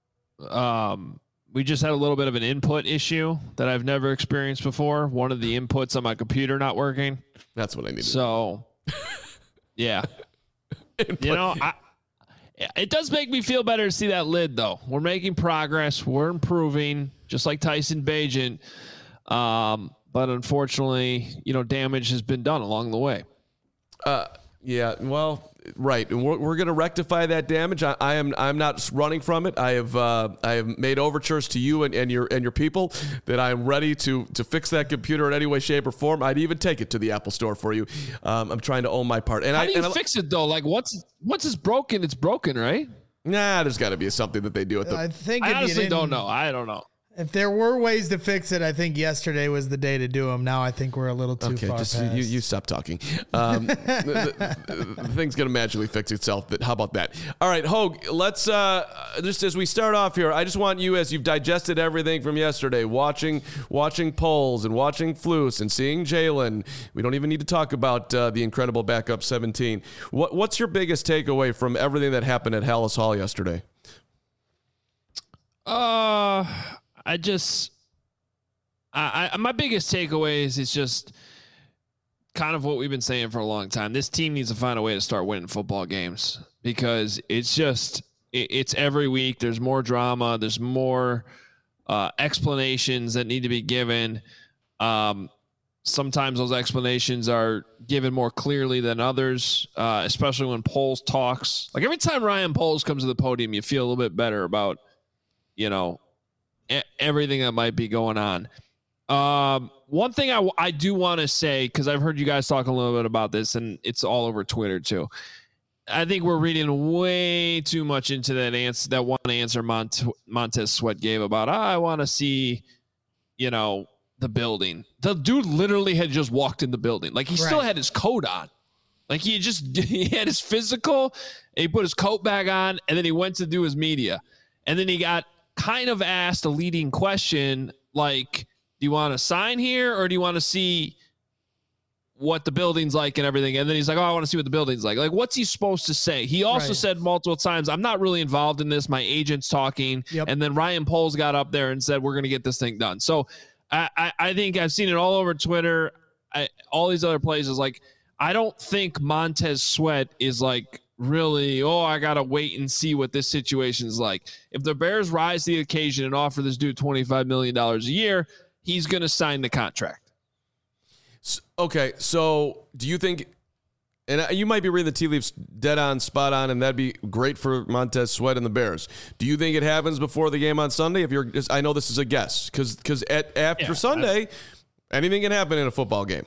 We just had a little bit of an input issue that I've never experienced before. One of the inputs on my computer not working. That's what I needed. So, yeah. You know, it does make me feel better to see that lid, though. We're making progress. We're improving, just like Tyson Bagent. But unfortunately, damage has been done along the way. Yeah, well, right. And we're going to rectify that damage. I'm not running from it. I have made overtures to you and your people that I'm ready to fix that computer in any way, shape, or form. I'd even take it to the Apple Store for you. I'm trying to own my part. And how do you fix it though? Like once it's broken, it's broken, right? Nah, there's got to be something that they do with the. I honestly don't know. I don't know. If there were ways to fix it, I think yesterday was the day to do them. Now I think we're a little too far just past. you stop talking. The thing's going to magically fix itself. But how about that? All right, Hogue, let's just as we start off here, I just want you, as you've digested everything from yesterday, watching Poles and watching Flus and seeing Jalen. We don't even need to talk about the incredible backup 17. What's your biggest takeaway from everything that happened at Hallis Hall yesterday? My biggest takeaway is it's just kind of what we've been saying for a long time. This team needs to find a way to start winning football games because it's every week. There's more drama. There's more explanations that need to be given. Sometimes those explanations are given more clearly than others, especially when Poles talks. Like every time Ryan Poles comes to the podium, you feel a little bit better about, everything that might be going on. One thing I do want to say, because I've heard you guys talk a little bit about this, and it's all over Twitter too. I think we're reading way too much into that one answer Montez Sweat gave about, I want to see, the building. The dude literally had just walked in the building. Like he still had his coat on. Like he had his physical, and he put his coat back on, and then he went to do his media. And then he got kind of asked a leading question like, do you want to sign here or do you want to see what the building's like and everything? And then he's like, I want to see what the building's like. Like, what's he supposed to say? He also said multiple times, I'm not really involved in this. My agent's talking. Yep. And then Ryan Poles got up there and said, we're going to get this thing done. So I think I've seen it all over Twitter. All these other places. Like, I don't think Montez Sweat is like, really, I got to wait and see what this situation is like. If the Bears rise to the occasion and offer this dude $25 million a year, he's going to sign the contract. Okay, so do you think, and you might be reading the tea leaves dead on, spot on, and that'd be great for Montez Sweat and the Bears. Do you think it happens before the game on Sunday? I know this is a guess, because after Sunday, anything can happen in a football game.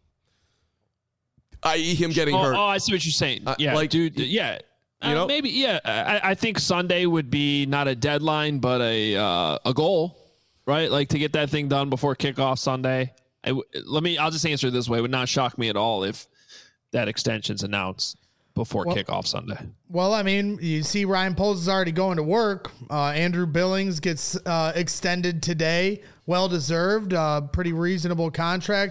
I.e. him getting hurt. Oh, I see what you're saying. Dude. Yeah. Maybe. Yeah. I think Sunday would be not a deadline, but a goal, right? Like to get that thing done before kickoff Sunday. I'll just answer it this way. It would not shock me at all if that extension's announced before kickoff Sunday. Well, I mean, you see Ryan Poles is already going to work. Andrew Billings gets extended today. Well-deserved. Pretty reasonable contract.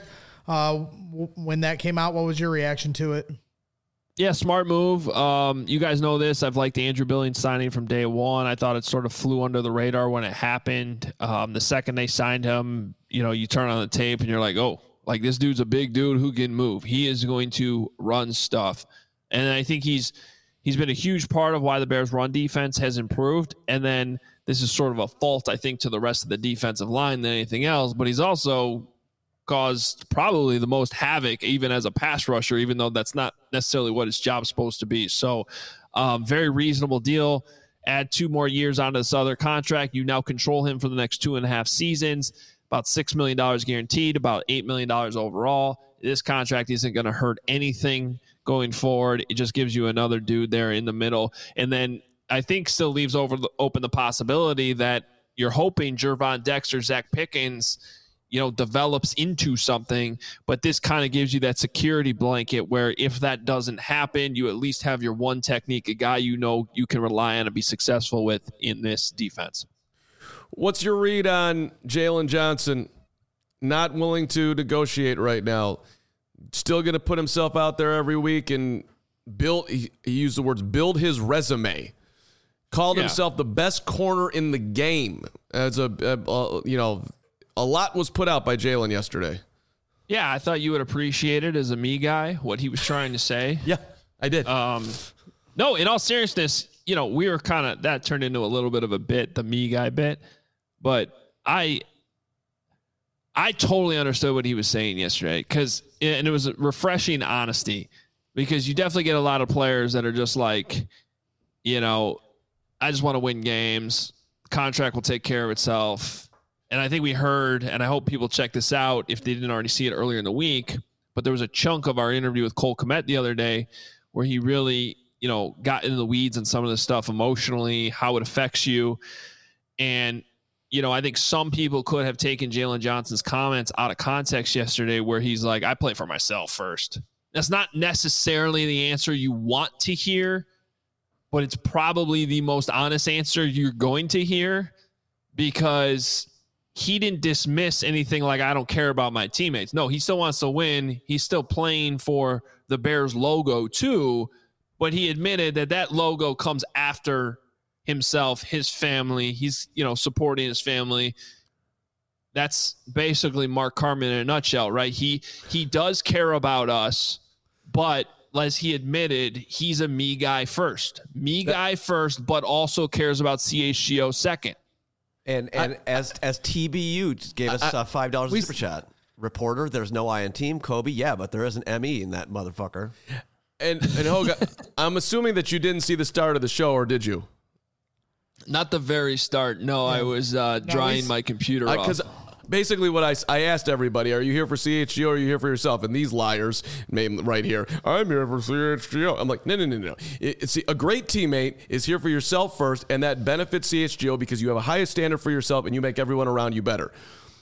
when that came out. What was your reaction to it? Yeah, smart move. You guys know this. I've liked Andrew Billings signing from day one. I thought it sort of flew under the radar when it happened. The second they signed him, you turn on the tape and you're like, oh, like this dude's a big dude who can move. He is going to run stuff. And I think he's been a huge part of why the Bears' run defense has improved. And then this is sort of a fault, I think, to the rest of the defensive line than anything else. But he's also caused probably the most havoc even as a pass rusher, even though that's not necessarily what his job's supposed to be. So very reasonable deal. Add 2 more years onto this other contract. You now control him for the next 2.5 seasons, about $6 million guaranteed, about $8 million overall. This contract isn't going to hurt anything going forward. It just gives you another dude there in the middle. And then I think still leaves open the possibility that you're hoping Gervon Dexter, Zach Pickens, develops into something, but this kind of gives you that security blanket where if that doesn't happen, you at least have your one technique, a guy you can rely on and be successful with in this defense. What's your read on Jalen Johnson not willing to negotiate right now? Still going to put himself out there every week and he used the words, build his resume. Called himself the best corner in the game. As a lot was put out by Jalen yesterday. Yeah, I thought you would appreciate it as a me guy, what he was trying to say. Yeah, I did. No, in all seriousness, we were that turned into a little bit of a bit, the me guy bit. But I totally understood what he was saying yesterday and it was a refreshing honesty, because you definitely get a lot of players that are just like, I just want to win games. Contract will take care of itself. And I think we heard, and I hope people check this out if they didn't already see it earlier in the week, but there was a chunk of our interview with Cole Kmet the other day where he really, got into the weeds on some of this stuff emotionally, how it affects you. And, I think some people could have taken Jalen Johnson's comments out of context yesterday where he's like, I play for myself first. That's not necessarily the answer you want to hear, but it's probably the most honest answer you're going to hear, because he didn't dismiss anything like, I don't care about my teammates. No, he still wants to win. He's still playing for the Bears logo too, but he admitted that logo comes after himself, his family. He's, supporting his family. That's basically Mark Carman in a nutshell, right? He does care about us, but as he admitted, he's a me guy first, but also cares about CHGO second. And as TBU gave us $5 super chat. Reporter, there's no I in team. Kobe, yeah, but there is an ME in that motherfucker. And Hoga, I'm assuming that you didn't see the start of the show, or did you? Not the very start. No, I was drying my computer off. Because basically what I asked everybody, are you here for CHGO or are you here for yourself? And these liars right here, I'm here for CHGO. I'm like, no. It's a great teammate is here for yourself first, and that benefits CHGO because you have a higher standard for yourself and you make everyone around you better.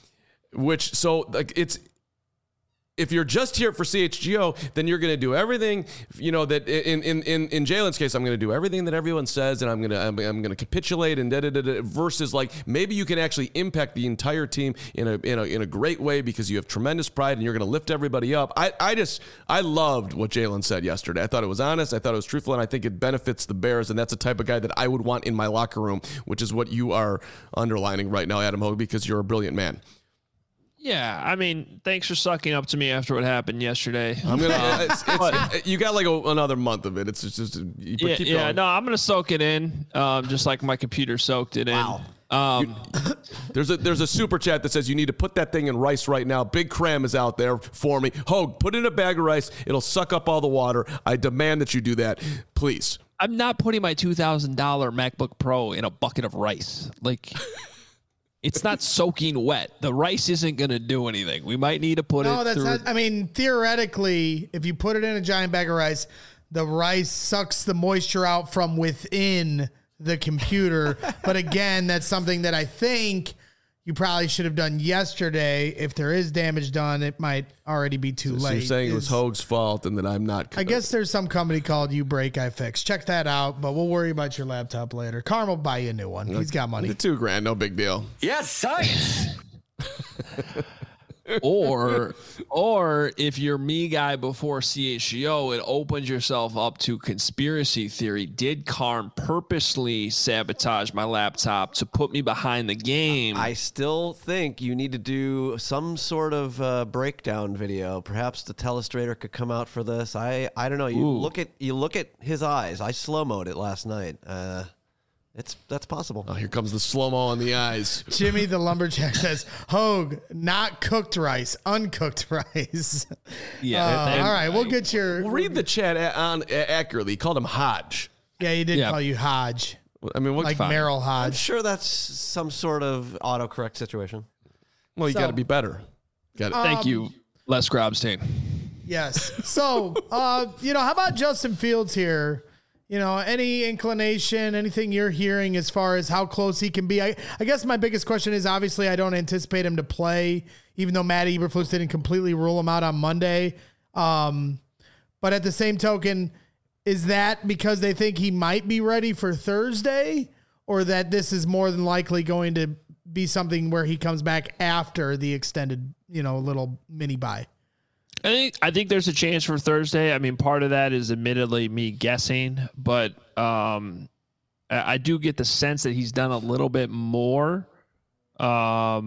If you're just here for CHGO, then you're going to do everything, that in Jalen's case, I'm going to do everything that everyone says, and I'm going to capitulate and versus like maybe you can actually impact the entire team in a great way because you have tremendous pride and you're going to lift everybody up. I loved what Jalen said yesterday. I thought it was honest. I thought it was truthful, and I think it benefits the Bears, and that's the type of guy that I would want in my locker room, which is what you are underlining right now, Adam Hogue, because you're a brilliant man. Yeah, I mean, thanks for sucking up to me after what happened yesterday. I'm gonna. You got like another month of it. It's just keep going. No, I'm gonna soak it in, just like my computer soaked it in. There's a super chat that says you need to put that thing in rice right now. Big Cram is out there for me. Hogue, put it in a bag of rice. It'll suck up all the water. I demand that you do that, please. I'm not putting my $2,000 MacBook Pro in a bucket of rice. Like. It's not soaking wet. The rice isn't going to do anything. We might need to put it through. Not. I mean, theoretically, if you put it in a giant bag of rice, the rice sucks the moisture out from within the computer. But again, that's something that I think you probably should have done yesterday. If there is damage done, it might already be too late. So you're saying it was Hogue's fault and that I'm not. I guess there's some company called You Break, I Fix. Check that out, but we'll worry about your laptop later. Carm will buy you a new one. He's got money. $2,000, no big deal. Yes, science. Or if you're me guy before CHGO, it opens yourself up to conspiracy theory. Did Carm purposely sabotage my laptop to put me behind the game? I still think you need to do some sort of breakdown video. Perhaps the telestrator could come out for this. I don't know. You look at his eyes. I slow-moed it last night. That's possible. Oh, here comes the slow-mo on the eyes. Jimmy the Lumberjack says, Hogue, not cooked rice, uncooked rice. Yeah. All right, we'll get your... We'll read the chat accurately. He called him Hodge. Yeah, he did call you Hodge. I mean, what? Like Merrill I'm Hodge. sure that's some sort of autocorrect situation. Well, you got to be better. Thank you, Les Grobstein. Yes. So, how about Justin Fields here? Any inclination, anything you're hearing as far as how close he can be? I guess my biggest question is, obviously, I don't anticipate him to play, even though Matt Eberflus didn't completely rule him out on Monday. But at the same token, is that because they think he might be ready for Thursday, or that this is more than likely going to be something where he comes back after the extended, little mini bye? I think there's a chance for Thursday. I mean, part of that is admittedly me guessing, but I do get the sense that he's done a little bit more. I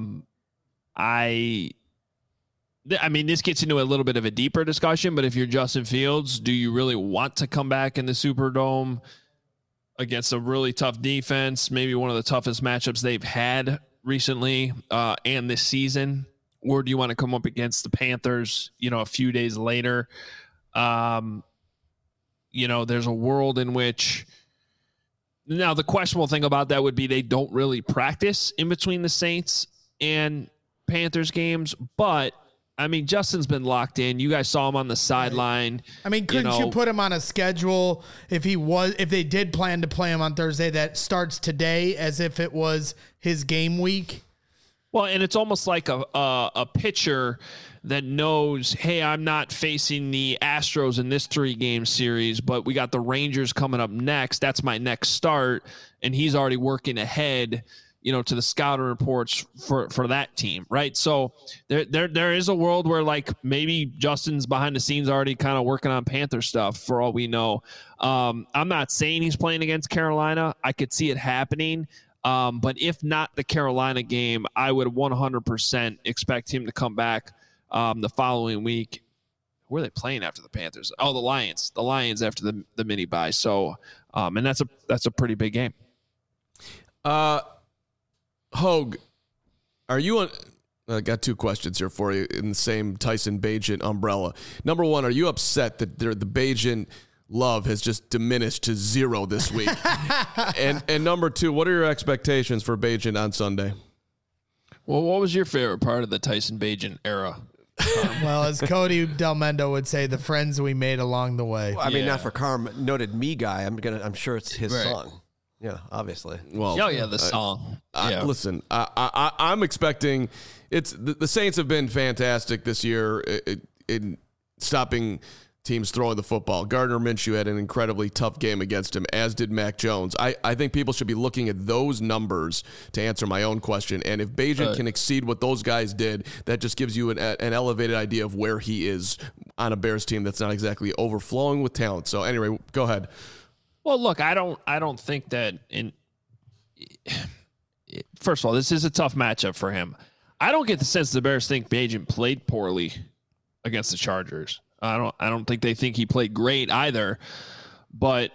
mean, this gets into a little bit of a deeper discussion, but if you're Justin Fields, do you really want to come back in the Superdome against a really tough defense, maybe one of the toughest matchups they've had recently and this season? Or do you want to come up against the Panthers, a few days later? There's a world in which now the questionable thing about that would be they don't really practice in between the Saints and Panthers games. But I mean, Justin's been locked in. You guys saw him on the sideline. I mean, couldn't you put him on a schedule if they did plan to play him on Thursday that starts today as if it was his game week? Well, and it's almost like a pitcher that knows, hey, I'm not facing the Astros in this 3-game series, but we got the Rangers coming up next. That's my next start. And he's already working ahead, to the scouting reports for that team, right? So there is a world where, like, maybe Justin's behind the scenes already kind of working on Panther stuff for all we know. I'm not saying he's playing against Carolina. I could see it happening. But if not the Carolina game, I would 100% expect him to come back the following week. Who are they playing after the Panthers? Oh, the Lions. The Lions after the mini bye. So, and that's a pretty big game. Hogue, are you on? I got 2 questions here for you in the same Tyson Bagent umbrella. Number 1, are you upset that the Bagent love has just diminished to 0 this week? and number 2, what are your expectations for Bagent on Sunday? Well, what was your favorite part of the Tyson Bagent era? Well, as Cody Del Mendo would say, the friends we made along the way. Well, I mean, not for Carm, noted me guy. I'm sure it's his song. Yeah, obviously. Well, the song. Listen, I'm expecting the Saints have been fantastic this year in stopping teams throwing the football. Gardner Minshew had an incredibly tough game against him, as did Mac Jones. I think people should be looking at those numbers to answer my own question. And if Bagent can exceed what those guys did, that just gives you an elevated idea of where he is on a Bears team that's not exactly overflowing with talent. So anyway, go ahead. Well, look, I don't think that first of all, this is a tough matchup for him. I don't get the sense the Bears think Bagent played poorly against the Chargers. I don't think they think he played great either. But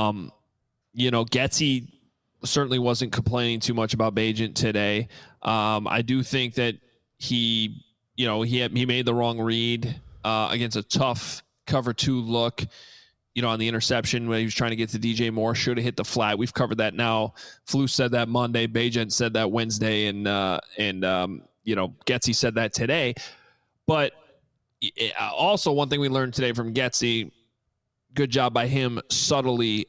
Getsy certainly wasn't complaining too much about Bagent today. I do think that he made the wrong read against a tough cover 2 look. On the interception when he was trying to get to DJ Moore, should have hit the flat. We've covered that now. Flus said that Monday. Bagent said that Wednesday, and Getsy said that today. But also, one thing we learned today from Getsy, good job by him subtly,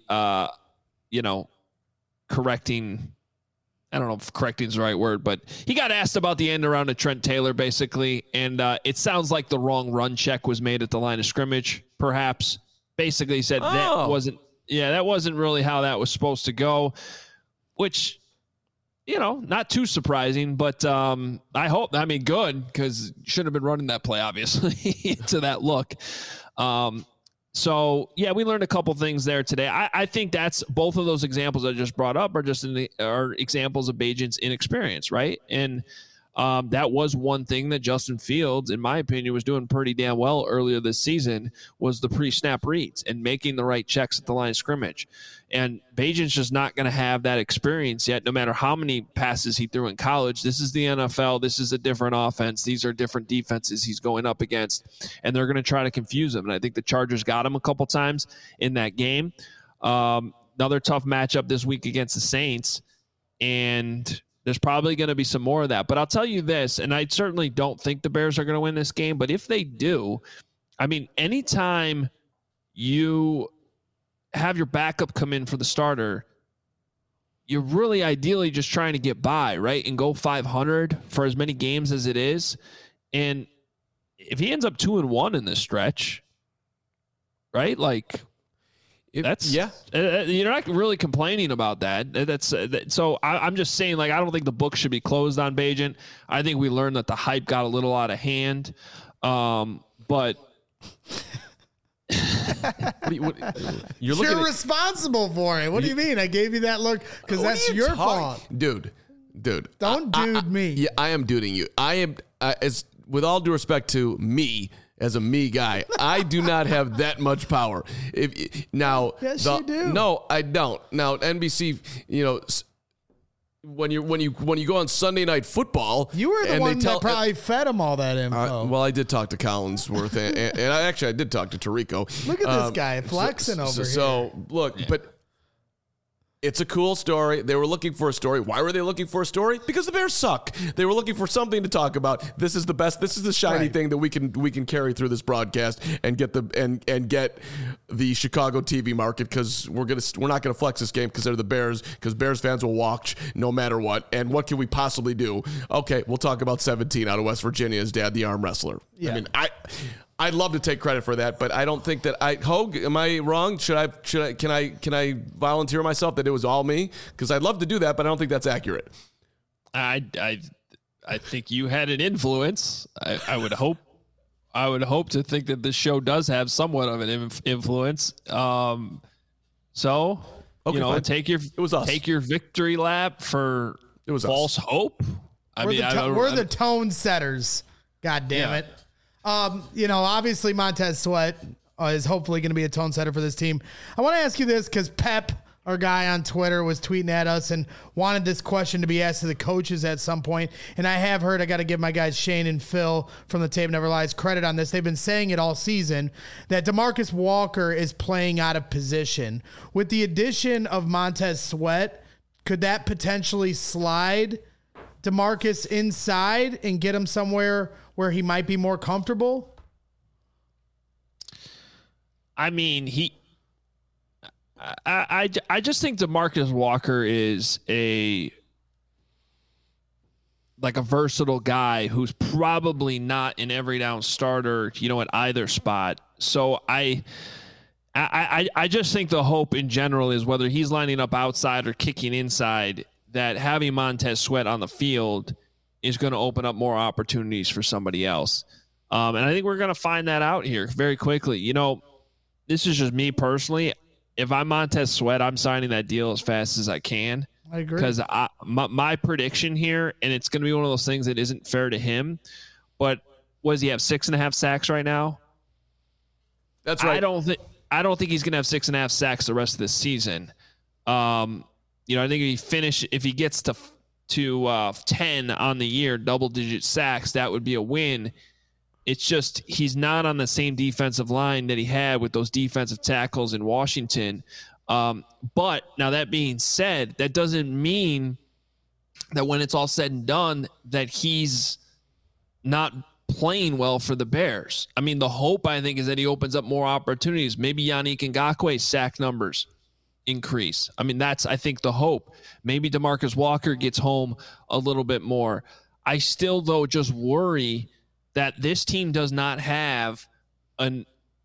correcting. I don't know if correcting is the right word, but he got asked about the end around to Trent Taylor, basically. And it sounds like the wrong run check was made at the line of scrimmage, perhaps. Basically said that wasn't really how that was supposed to go, which, not too surprising, but I hope, good, because should have been running that play, obviously, to that look. So, yeah, we learned a couple things there today. I think that's both of those examples I just brought up are examples of Bagent's inexperience, right? And that was one thing that Justin Fields, in my opinion, was doing pretty damn well earlier this season, was the pre-snap reads and making the right checks at the line of scrimmage. And Bagent's just not going to have that experience yet, no matter how many passes he threw in college. This is the NFL. This is a different offense. These are different defenses he's going up against, and they're going to try to confuse him. And I think the Chargers got him a couple times in that game. Another tough matchup this week against the Saints, and there's probably going to be some more of that. But I'll tell you this, and I certainly don't think the Bears are going to win this game, but if they do, anytime you have your backup come in for the starter, you're really ideally just trying to get by, right? And go 500 for as many games as it is. And if he ends up 2-1 in this stretch, right? You're not really complaining about that. So I'm just saying, I don't think the book should be closed on Bagent. I think we learned that the hype got a little out of hand. But you're responsible for it. What do you mean? I gave you that look because that's your fault, dude. Don't dude me. Yeah, I am duding you. I am as with all due respect to me. As a me guy, I do not have that much power. Yes, you do. No, I don't. Now, NBC, when you go on Sunday Night Football, you were the one that probably fed him all that info. Well, I did talk to Collinsworth, and I did talk to Tirico. Look at this guy flexing over here. So look, yeah. But it's a cool story. They were looking for a story. Why were they looking for a story? Because the Bears suck. They were looking for something to talk about. This is the best. This is the shiny thing that we can carry through this broadcast and get the Chicago TV market, because we're not gonna flex this game because they're the Bears, because Bears fans will watch no matter what. And what can we possibly do? Okay, we'll talk about 17 out of West Virginia's dad, the arm wrestler. Yeah. I'd love to take credit for that, but I don't think that Hogue, am I wrong? Can I volunteer myself that it was all me? Because I'd love to do that, but I don't think that's accurate. I think you had an influence. I would hope to think that this show does have somewhat of an influence. Fine. Take your victory lap for false hope. We're the tone setters. God damn it. Obviously Montez Sweat is hopefully going to be a tone setter for this team. I want to ask you this because Pep, our guy on Twitter, was tweeting at us and wanted this question to be asked to the coaches at some point. And I have heard, I got to give my guys Shane and Phil from the Tape Never Lies credit on this. They've been saying it all season that DeMarcus Walker is playing out of position. With the addition of Montez Sweat, could that potentially slide DeMarcus inside and get him somewhere where he might be more comfortable? I just think DeMarcus Walker is a versatile guy who's probably not an every down starter, at either spot. So I just think the hope in general is, whether he's lining up outside or kicking inside, that having Montez Sweat on the field is going to open up more opportunities for somebody else. And I think we're going to find that out here very quickly. This is just me personally. If I'm Montez Sweat, I'm signing that deal as fast as I can. I agree. Because my prediction here, and it's going to be one of those things that isn't fair to him, but what does he have, 6.5 sacks right now? That's right. I don't think he's going to have 6.5 sacks the rest of this season. I think if he gets to 10 on the year, double-digit sacks, that would be a win. It's just he's not on the same defensive line that he had with those defensive tackles in Washington. But now, that being said, that doesn't mean that when it's all said and done that he's not playing well for the Bears. The hope, I think, is that he opens up more opportunities. Maybe Yannick Ngakwe's sack numbers increase. That's, I think, the hope. Maybe DeMarcus Walker gets home a little bit more. I still, though, just worry that this team does not have a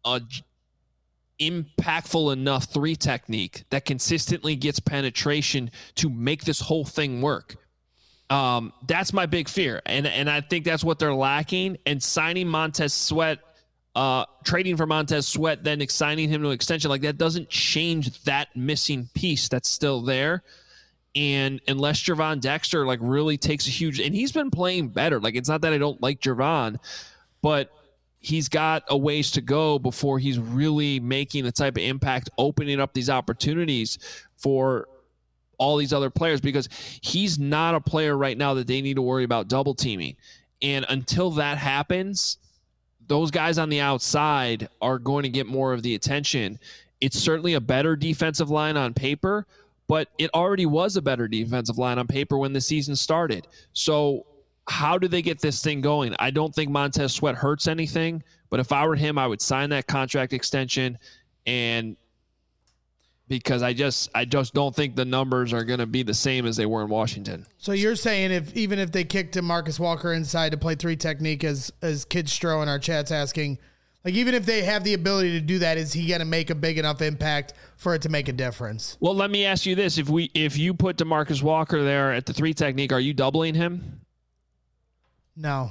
impactful enough 3 technique that consistently gets penetration to make this whole thing work. That's my big fear. And I think that's what they're lacking. And signing Montez Sweat, trading for Montez Sweat, then signing him to an extension, like that doesn't change that missing piece that's still there. And unless Gervon Dexter like really takes a huge, and he's been playing better. Like, it's not that I don't like Gervon, but he's got a ways to go before he's really making the type of impact, opening up these opportunities for all these other players, because he's not a player right now that they need to worry about double teaming. And until that happens, those guys on the outside are going to get more of the attention. It's certainly a better defensive line on paper, but it already was a better defensive line on paper when the season started. So how do they get this thing going? I don't think Montez Sweat hurts anything, but if I were him, I would sign that contract extension, and because I just don't think the numbers are going to be the same as they were in Washington. So you're saying even if they kicked Marcus Walker inside to play 3 technique, as Kid Stro in our chat's asking, like, even if they have the ability to do that, is he going to make a big enough impact for it to make a difference? Well, let me ask you this. If you put DeMarcus Walker there at the 3 technique, are you doubling him? No.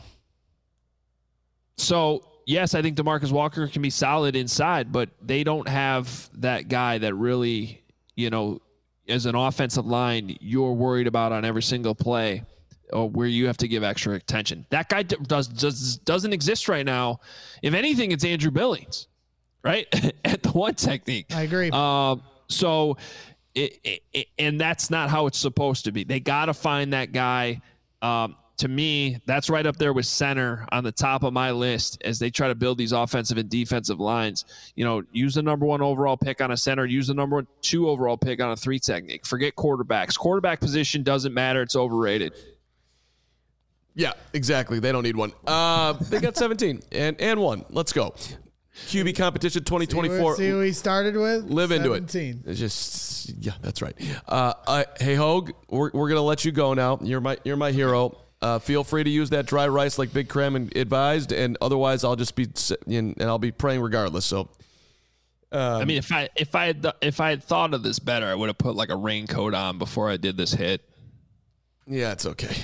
So, yes, I think DeMarcus Walker can be solid inside, but they don't have that guy that really, as an offensive line, you're worried about on every single play, or where you have to give extra attention. That guy doesn't exist right now. If anything, it's Andrew Billings, right? At the 1 technique. I agree. So, and that's not how it's supposed to be. They got to find that guy. To me, that's right up there with center on the top of my list as they try to build these offensive and defensive lines. Use the number 1 overall pick on a center, use the number 2 overall pick on a 3 technique. Forget quarterbacks. Quarterback position doesn't matter. It's overrated. Yeah, exactly. They don't need one. They got 17 and 1. Let's go. QB competition 2024. See who he started with? Live 17. into it. It's just, yeah, that's right. Hey, Hogue, we're going to let you go now. You're my hero. Feel free to use that dry rice like Big Cram advised, and otherwise I'll just be and I'll be praying regardless. So, I mean, if I had thought of this better, I would have put like a raincoat on before I did this hit. Yeah, it's okay.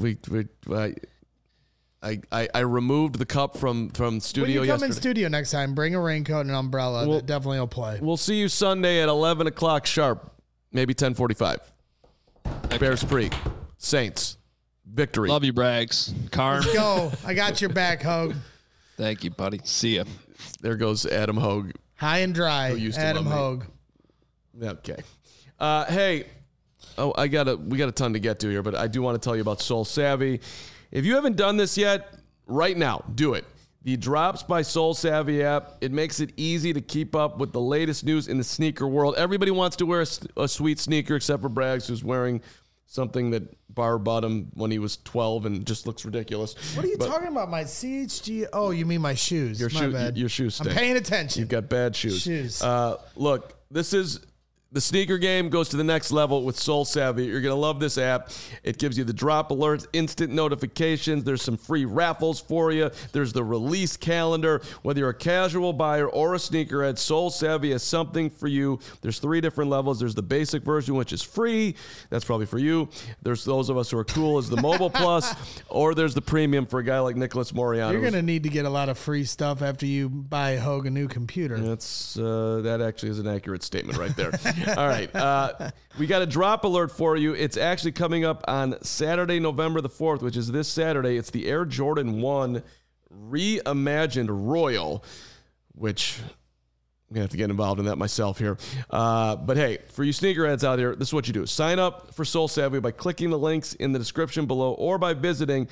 I removed the cup from studio yesterday. When you come yesterday. in studio next time, bring a raincoat and an umbrella. That definitely will play. We'll see you Sunday at 11 o'clock sharp, maybe 10:45. Okay. Bears Pre, Saints, victory. Love you, Braggs. Carm. Let's go. I got your back, Hogue. Thank you, buddy. See ya. There goes Adam Hogue. High and dry, Adam Hogue. Okay. Hey. Oh, we got a ton to get to here, but I do want to tell you about Soul Savvy. If you haven't done this yet, right now, do it. The Drops by Soul Savvy app, it makes it easy to keep up with the latest news in the sneaker world. Everybody wants to wear a sweet sneaker except for Braggs, who's wearing something that Barr bought him when he was 12 and just looks ridiculous. What are you talking about? My CHG? Oh, you mean my shoes. Your bad. Your shoes stink. I'm paying attention. You've got bad shoes. Look, this is... The sneaker game goes to the next level with Soul Savvy. You're going to love this app. It gives you the drop alerts, instant notifications. There's some free raffles for you. There's the release calendar. Whether you're a casual buyer or a sneakerhead, Soul Savvy has something for you. There's 3 different levels. There's the basic version, which is free. That's probably for you. There's those of us who are cool as the Mobile Plus, or there's the premium for a guy like Nicholas Moriano. You're going to need to get a lot of free stuff after you buy Hogue a new computer. That actually is an accurate statement right there. All right. We got a drop alert for you. It's actually coming up on Saturday, November the 4th, which is this Saturday. It's the Air Jordan 1 Reimagined Royal, which I'm going to have to get involved in that myself here. But hey, for you sneakerheads out there, this is what you do. Sign up for Soul Savvy by clicking the links in the description below or by visiting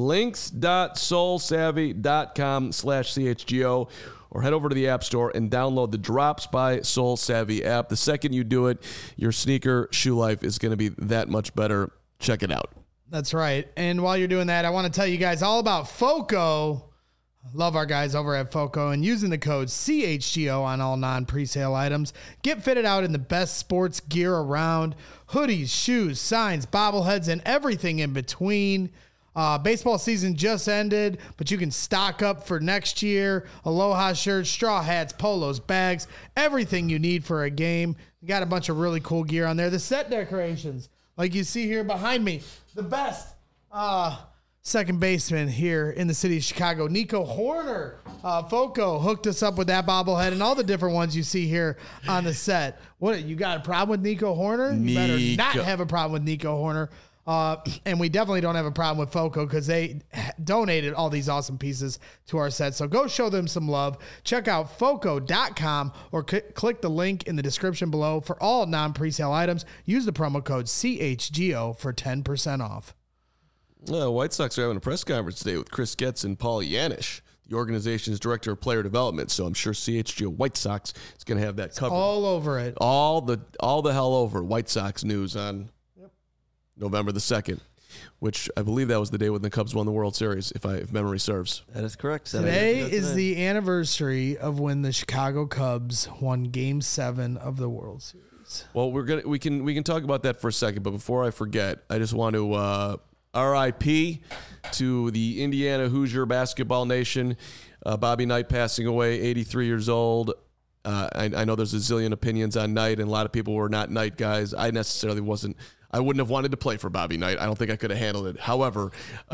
links.soulsavvy.com/CHGO. Or head over to the App Store and download the Drops by Soul Savvy app. The second you do it, your sneaker shoe life is going to be that much better. Check it out. That's right. And while you're doing that, I want to tell you guys all about FOCO. Love our guys over at FOCO, and using the code CHGO on all non-presale items. Get fitted out in the best sports gear around. Hoodies, shoes, signs, bobbleheads, and everything in between. Baseball season just ended, but you can stock up for next year. Aloha shirts, straw hats, polos, bags, everything you need for a game. We got a bunch of really cool gear on there. The set decorations, like you see here behind me, the best Second baseman here in the city of Chicago, Nico Horner. Foco hooked us up with that bobblehead and all the different ones you see here on the set. What, you got a problem with Nico Horner? You better not have a problem with Nico Horner. And we definitely don't have a problem with Foco because they donated all these awesome pieces to our set. So go show them some love. Check out Foco.com or click the link in the description below for all non-presale items. Use the promo code CHGO for 10% off. White Sox are having a press conference today with Chris Getz and Paul Yanish, the organization's director of player development. So I'm sure CHGO White Sox is going to have that covered. All over it. All the hell over White Sox news on November the 2nd, which I believe that was the day when the Cubs won the World Series, if memory serves. That is correct. Today is the anniversary of when the Chicago Cubs won Game 7 of the World Series. Well, we can talk about that for a second, but before I forget, I just want to RIP to the Indiana Hoosier basketball nation. Bobby Knight passing away, 83 years old. I know there's a zillion opinions on Knight, and a lot of people were not Knight guys. I wouldn't have wanted to play for Bobby Knight. I don't think I could have handled it. However,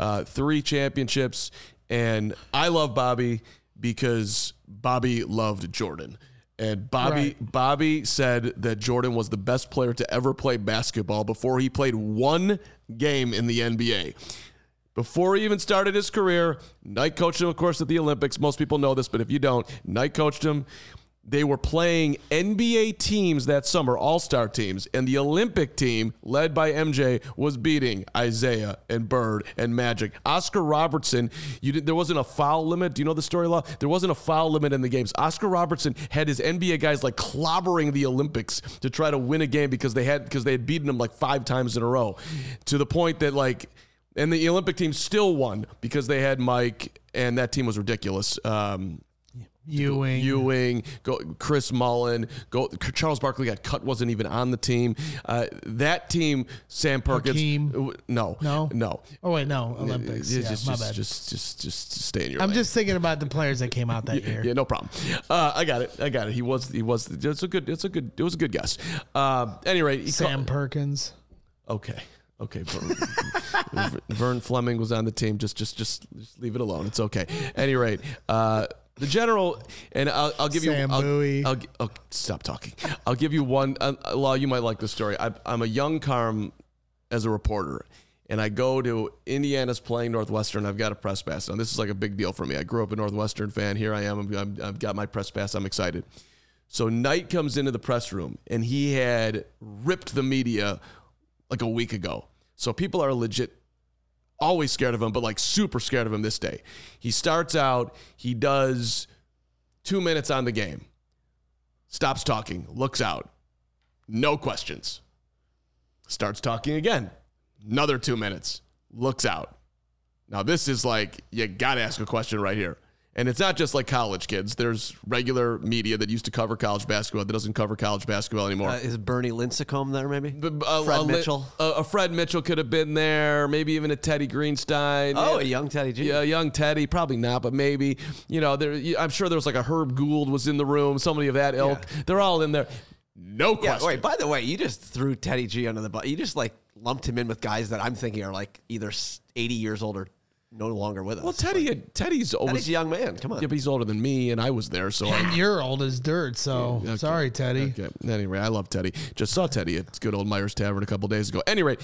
3 championships, and I love Bobby because Bobby loved Jordan. And Bobby said that Jordan was the best player to ever play basketball before he played one game in the NBA. Before he even started his career, Knight coached him, of course, at the Olympics. Most people know this, but if you don't, Knight coached him. They were playing NBA teams that summer, all-star teams, and the Olympic team, led by MJ, was beating Isaiah and Bird and Magic. Oscar Robertson, there wasn't a foul limit. Do you know the story, Law? There wasn't a foul limit in the games. Oscar Robertson had his NBA guys like clobbering the Olympics to try to win a game because they had beaten them like 5 times in a row, to the point that and the Olympic team still won because they had Mike, and that team was ridiculous. Ewing, Chris Mullen, Charles Barkley got cut, wasn't even on the team. That team, Sam Perkins. Hakeem. No. Oh wait, no, Olympics. My bad. Just stay in your I'm lane. just thinking about the players that came out that year. Yeah, no problem. I got it. He was. It was a good guess. Any rate, Sam Perkins. Okay. Vern Fleming was on the team. Just leave it alone. It's okay. Any rate, the general, and I'll give Sam Bowie. Stop talking. I'll give you one. Law, you might like this story. I'm a young Carm as a reporter, and I go to Indiana's playing Northwestern. I've got a press pass. Now, this is like a big deal for me. I grew up a Northwestern fan. Here I am. I've got my press pass. I'm excited. So Knight comes into the press room, and he had ripped the media like a week ago. So people are legit always scared of him, but like super scared of him this day. He starts out, he does 2 minutes on the game, stops talking, looks out, no questions. Starts talking again, another 2 minutes, looks out. Now this is like, you got to ask a question right here. And it's not just like college kids. There's regular media that used to cover college basketball that doesn't cover college basketball anymore. Is Bernie Lincecum there maybe? Fred Mitchell? A Fred Mitchell could have been there. Maybe even a Teddy Greenstein. Oh, a young Teddy G. Yeah, young Teddy. Probably not, but maybe. I'm sure there was like a Herb Gould was in the room. Somebody of that ilk. Yeah. They're all in there. No question. Yeah, wait, by the way, you just threw Teddy G under the bus. You just lumped him in with guys that I'm thinking are either 80 years old or no longer with us. Well, Teddy's a young man. Come on. Yeah, but he's older than me, and I was there. So you're old as dirt. So okay. Sorry, Teddy. Okay. Anyway, I love Teddy. Just saw Teddy at good old Myers Tavern a couple days ago. Anyway,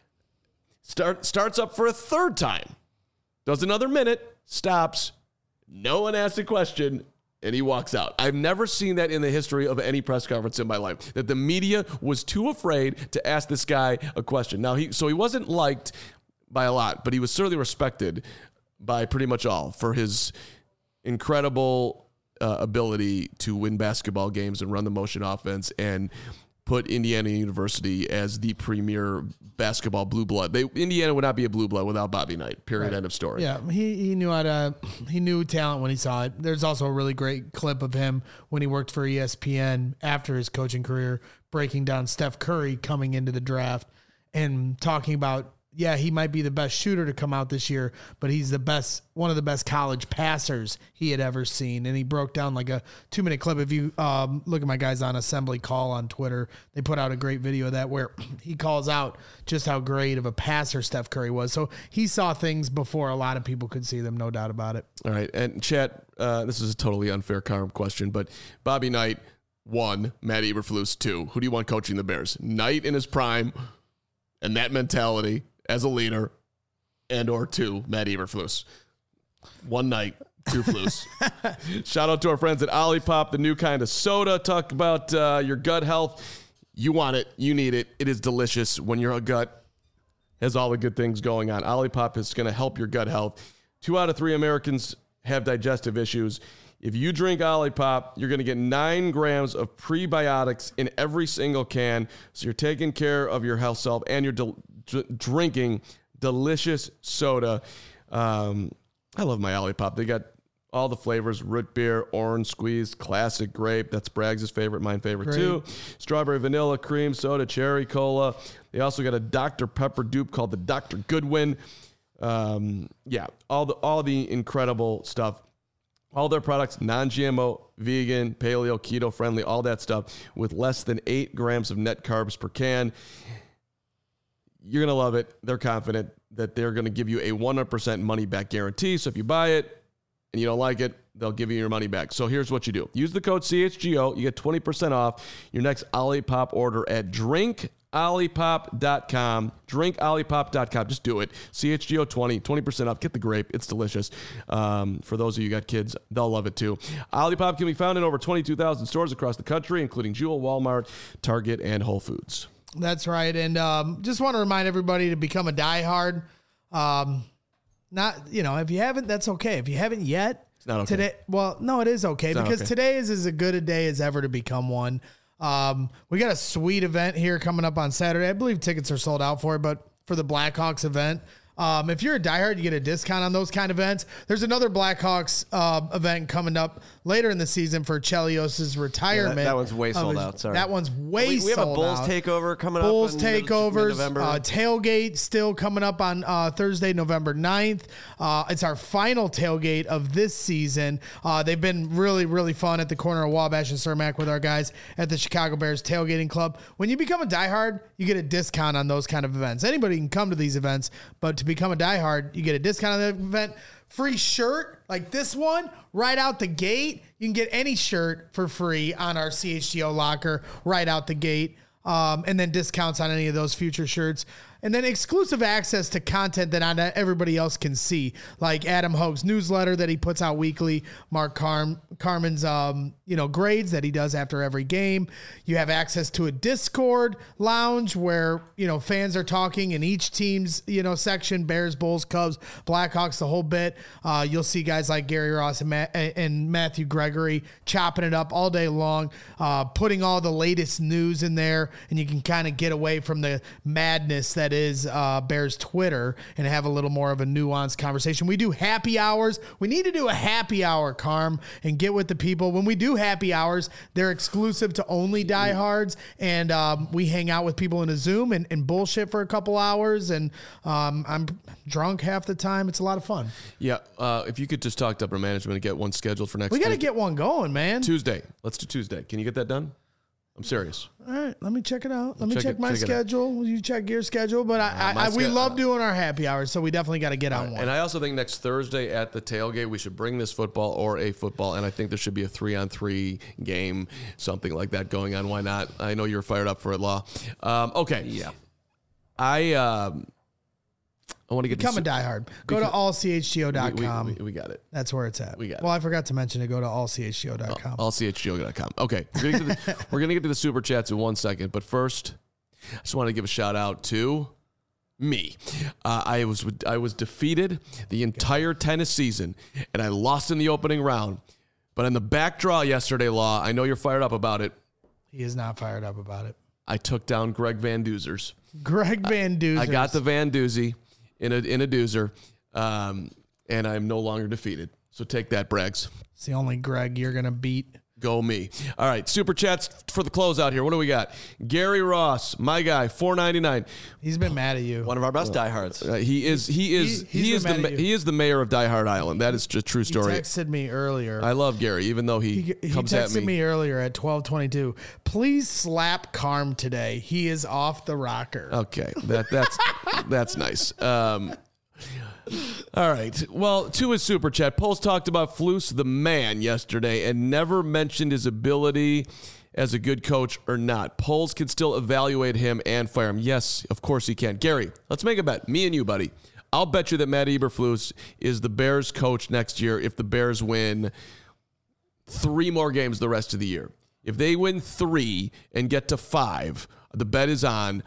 starts up for a third time, does another minute, stops. No one asks a question, and he walks out. I've never seen that in the history of any press conference in my life, that the media was too afraid to ask this guy a question. Now, he wasn't liked by a lot, but he was certainly respected by pretty much all for his incredible ability to win basketball games and run the motion offense and put Indiana University as the premier basketball blue blood. Indiana would not be a blue blood without Bobby Knight. Period. Right. End of story. Yeah, he knew talent when he saw it. There's also a really great clip of him when he worked for ESPN after his coaching career, breaking down Steph Curry coming into the draft and talking about yeah, he might be the best shooter to come out this year, but he's one of the best college passers he had ever seen. And he broke down like a 2-minute clip. If you look at my guys on Assembly Call on Twitter, they put out a great video of that where he calls out just how great of a passer Steph Curry was. So he saw things before a lot of people could see them, no doubt about it. All right. And chat, this is a totally unfair question, but Bobby Knight, 1, Matt Eberflus, 2. Who do you want coaching the Bears? Knight in his prime and that mentality as a leader, and or 2, Matt Eberflus. 1 Knight, 2 Flus. Shout out to our friends at Olipop, the new kind of soda. Talk about your gut health. You want it. You need it. It is delicious when your gut has all the good things going on. Olipop is going to help your gut health. 2 out of 3 Americans have digestive issues. If you drink Olipop, you're going to get 9 grams of prebiotics in every single can. So you're taking care of your health self and you're drinking delicious soda. I love my Olipop. They got all the flavors: root beer, orange squeeze, classic grape. That's Braggs' favorite, my favorite too. Strawberry, vanilla, cream soda, cherry cola. They also got a Dr. Pepper dupe called the Dr. Goodwin. Yeah, all the incredible stuff. All their products, non-GMO, vegan, paleo, keto friendly, all that stuff with less than 8 grams of net carbs per can. You're going to love it. They're confident that they're going to give you a 100% money back guarantee. So if you buy it and you don't like it, they'll give you your money back. So here's what you do. Use the code CHGO. You get 20% off your next Olipop order at drinkolipop.com. Drinkolipop.com. Just do it. CHGO 20% off. Get the grape. It's delicious. For those of you who got kids, they'll love it too. Olipop can be found in over 22,000 stores across the country, including Jewel, Walmart, Target, and Whole Foods. That's right. And just want to remind everybody to become a diehard. If you haven't, that's okay. If you haven't yet, it's not okay. Today, well, no, it is okay because today is as good a day as ever to become one. We got a sweet event here coming up on Saturday. I believe tickets are sold out for it, but for the Blackhawks event, if you're a diehard, you get a discount on those kind of events. There's another Blackhawks event coming up later in the season for Chelios' retirement. That one's way sold out. Sorry. That one's way sold out. We have a Bulls takeover coming Bulls up. takeovers. November. Tailgate still coming up on Thursday, November 9th. It's our final tailgate of this season. They've been really, really fun at the corner of Wabash and Cermak with our guys at the Chicago Bears Tailgating Club. When you become a diehard, you get a discount on those kind of events. Anybody can come to these events, but to become a diehard, you get a discount on the event. Free shirt like this one right out the gate. You can get any shirt for free on our CHGO locker right out the gate. And then discounts on any of those future shirts. And then exclusive access to content that not everybody else can see, like Adam Hogue's newsletter that he puts out weekly, Mark Carmen's grades that he does after every game. You have access to a Discord lounge where fans are talking in each team's section: Bears, Bulls, Cubs, Blackhawks, the whole bit. You'll see guys like Gary Ross and Matthew Gregory chopping it up all day long, putting all the latest news in there, and you can kind of get away from the madness that is Bears Twitter and have a little more of a nuanced conversation. We do happy hours. We need to do a happy hour, Carm, and get with the people. When we do happy hours, they're exclusive to only diehards, and we hang out with people in a Zoom and bullshit for a couple hours, and I'm drunk half the time. It's a lot of fun. Yeah, if you could just talk to upper management and get one scheduled for next week. We got to get one going, man. Tuesday. Let's do Tuesday. Can you get that done? I'm serious. All right, let me check it out. Let me check my schedule. You check your schedule. But we love doing our happy hours, so we definitely got to get on one. And I also think next Thursday at the tailgate, we should bring this football or a football, and I think there should be a 3-on-3 game, something like that going on. Why not? I know you're fired up for it, Law. Okay. Yeah. I want to get become a diehard. Go to allchgo.com. We got it. That's where it's at. We got it. Well, I forgot to mention to go to allchgo.com. Allchgo.com. Okay. We're going to get to the super chats in 1 second, but first, I just want to give a shout out to me. I was defeated the entire tennis season, and I lost in the opening round. But in the back draw yesterday, Law, I know you're fired up about it. He is not fired up about it. I took down Greg Van Doozers. Greg Van Doozers. I got the Van Doozy in a doozer, and I'm no longer defeated. So take that, Braggs. It's the only Greg you're going to beat. Go me. All right, super chats for the closeout here. What do we got? Gary Ross, my guy, $4.99. He's been mad at you. One of our best diehards. He is the mayor of Die Hard Island. That is just a true story. He texted me earlier. I love Gary, even though he comes at me. He texted me earlier at 12:22. Please slap Carm today. He is off the rocker. Okay, that's nice. All right. Well, to his super chat, Poles talked about Flus the man yesterday and never mentioned his ability as a good coach or not. Poles can still evaluate him and fire him. Yes, of course he can. Gary, let's make a bet. Me and you, buddy. I'll bet you that Matt Eberflus is the Bears coach next year if the Bears win 3 more games the rest of the year. If they win 3 and get to 5, the bet is on.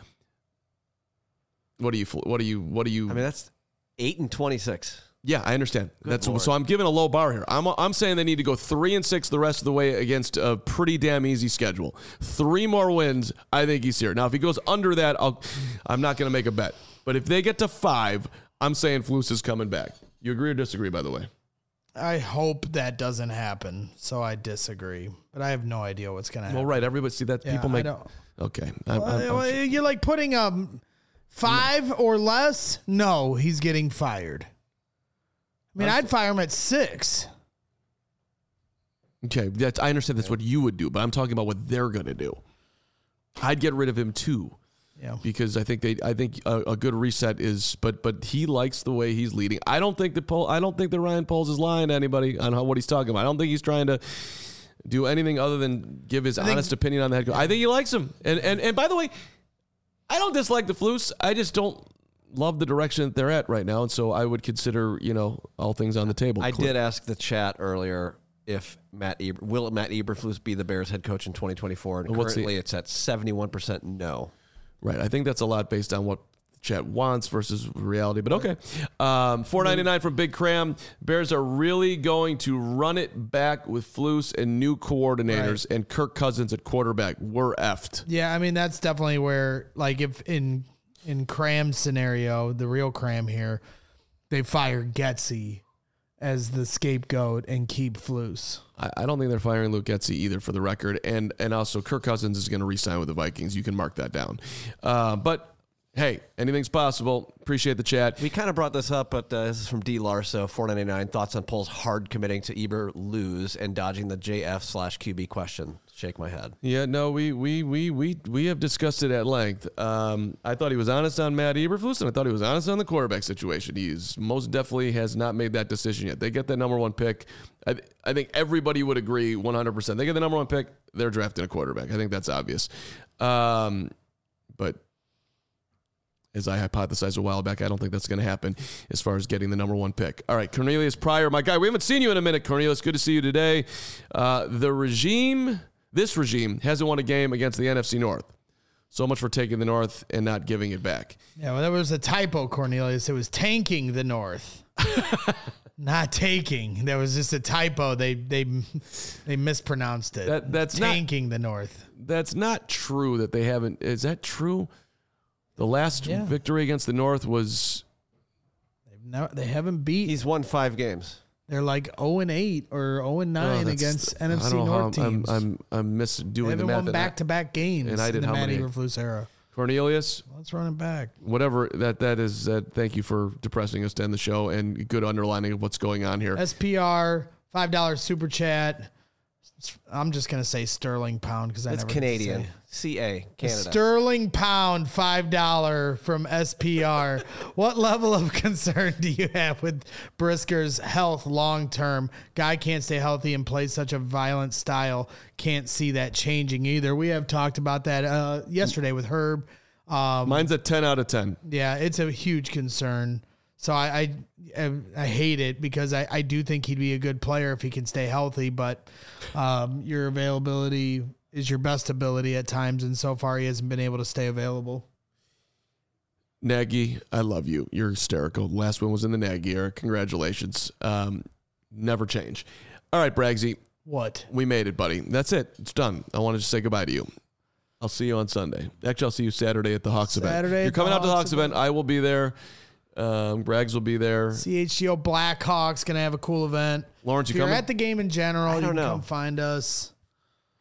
What do you? I mean, that's 8-26. Yeah, I understand. Good Lord. So I'm giving a low bar here. I'm saying they need to go 3-6 the rest of the way against a pretty damn easy schedule. 3 more wins, I think he's here. Now, if he goes under that, I'm not going to make a bet. But if they get to 5, I'm saying Flus is coming back. You agree or disagree, by the way? I hope that doesn't happen, so I disagree. But I have no idea what's going to happen. Well, right. Everybody see that people make. Okay. You're like putting 5 or less? No, he's getting fired. I mean, I'd fire him at 6. Okay, I understand that's what you would do, but I'm talking about what they're going to do. I'd get rid of him too. Yeah. Because I think a good reset is, but he likes the way he's leading. I don't think that Ryan Poles is lying to anybody on what he's talking about. I don't think he's trying to do anything other than give his honest opinion on the head coach. I think he likes him. And by the way, I don't dislike the Flus. I just don't love the direction that they're at right now, and so I would consider, all things on the table. I did ask the chat earlier if will Matt Eberflus be the Bears head coach in 2024, and currently it's at 71% no. Right, I think that's a lot based on what the chat wants versus reality, but okay. $4.99 from Big Cram. Bears are really going to run it back with Flus and new coordinators and Kirk Cousins at quarterback. We're effed. Yeah, I mean, that's definitely where, like, if in Cram's scenario, the real Cram here, they fire Getsy as the scapegoat and keep Flus. I don't think they're firing Luke Getsy either, for the record. And also, Kirk Cousins is going to re-sign with the Vikings. You can mark that down. But, hey, anything's possible. Appreciate the chat. We kind of brought this up, but this is from D. Larso, $4.99. Thoughts on Poles hard committing to Eber lose and dodging the JF/QB question. Shake my head. Yeah, no, we have discussed it at length. I thought he was honest on Matt Eberflus, and I thought he was honest on the quarterback situation. He's most definitely has not made that decision yet. They get that number 1 pick. I think everybody would agree 100%. They get the number 1 pick, they're drafting a quarterback. I think that's obvious. But as I hypothesized a while back, I don't think that's going to happen as far as getting the number 1 pick. All right, Cornelius Pryor, my guy. We haven't seen you in a minute, Cornelius. Good to see you today. This regime hasn't won a game against the NFC North. So much for taking the North and not giving it back. Yeah, well, there was a typo, Cornelius. It was tanking the North. Not taking. There was just a typo. They mispronounced it. That's tanking the North. That's not true that they haven't. Is that true? The last victory against the North was. They haven't beat. He's won 5 games. They're like 0-8 or 0-9 against NFC North teams. I'm misdoing the math. They haven't won back-to-back games in the Matt Eberflus era. Cornelius, let's run it back. Whatever that is. Thank you for depressing us to end the show and good underlining of what's going on here. SPR $5 super chat. I'm just gonna say sterling pound because that's Canadian. CA Canada. Sterling pound $5 from SPR. What level of concern do you have with Brisker's health long term? Guy can't stay healthy and play such a violent style. Can't see that changing either. We have talked about that yesterday with Herb. Mine's a 10 out of 10. Yeah, it's a huge concern. So I hate it because I do think he'd be a good player if he can stay healthy, but your availability is your best ability at times, and so far he hasn't been able to stay available. Nagy, I love you. You're hysterical. The last one was in the Nagy era. Congratulations. Never change. All right, Bragsy. What? We made it, buddy. That's it. It's done. I wanted to say goodbye to you. I'll see you on Sunday. Actually, I'll see you Saturday at the Hawks event. You're coming out to the Hawks event. I will be there. Braggs will be there. CHGO Blackhawks going to have a cool event. Lawrence, if you're at the game in general, you can come find us.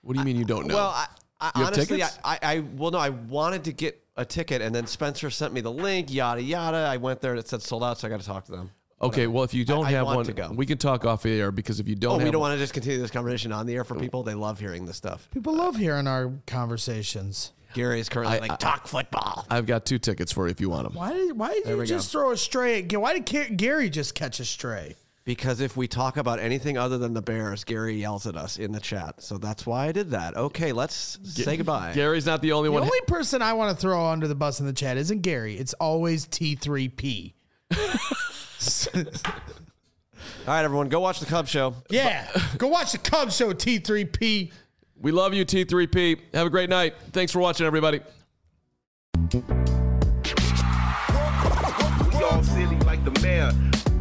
What do you mean you don't know? Well, I honestly, tickets? I wanted to get a ticket, and then Spencer sent me the link, yada yada. I went there and it said sold out, so I got to talk to them. Okay, well, if you don't I have want one, to go. we can talk off the air, because if you don't have We don't want to just continue this conversation on the air for people. They love hearing this stuff. People love hearing our conversations. Gary is currently talk football. I've got 2 tickets for you if you want them. Why did you just throw a stray? Why did Gary just catch a stray? Because if we talk about anything other than the Bears, Gary yells at us in the chat. So that's why I did that. Okay, let's say goodbye. Gary's not the only The one. only person I want to throw under the bus in the chat isn't Gary. It's always T3P. All right, everyone, go watch the Cubs show. Yeah, go watch the Cubs show, T3P. We love you, T3P. Have a great night. Thanks for watching, everybody. We all silly like the mayor.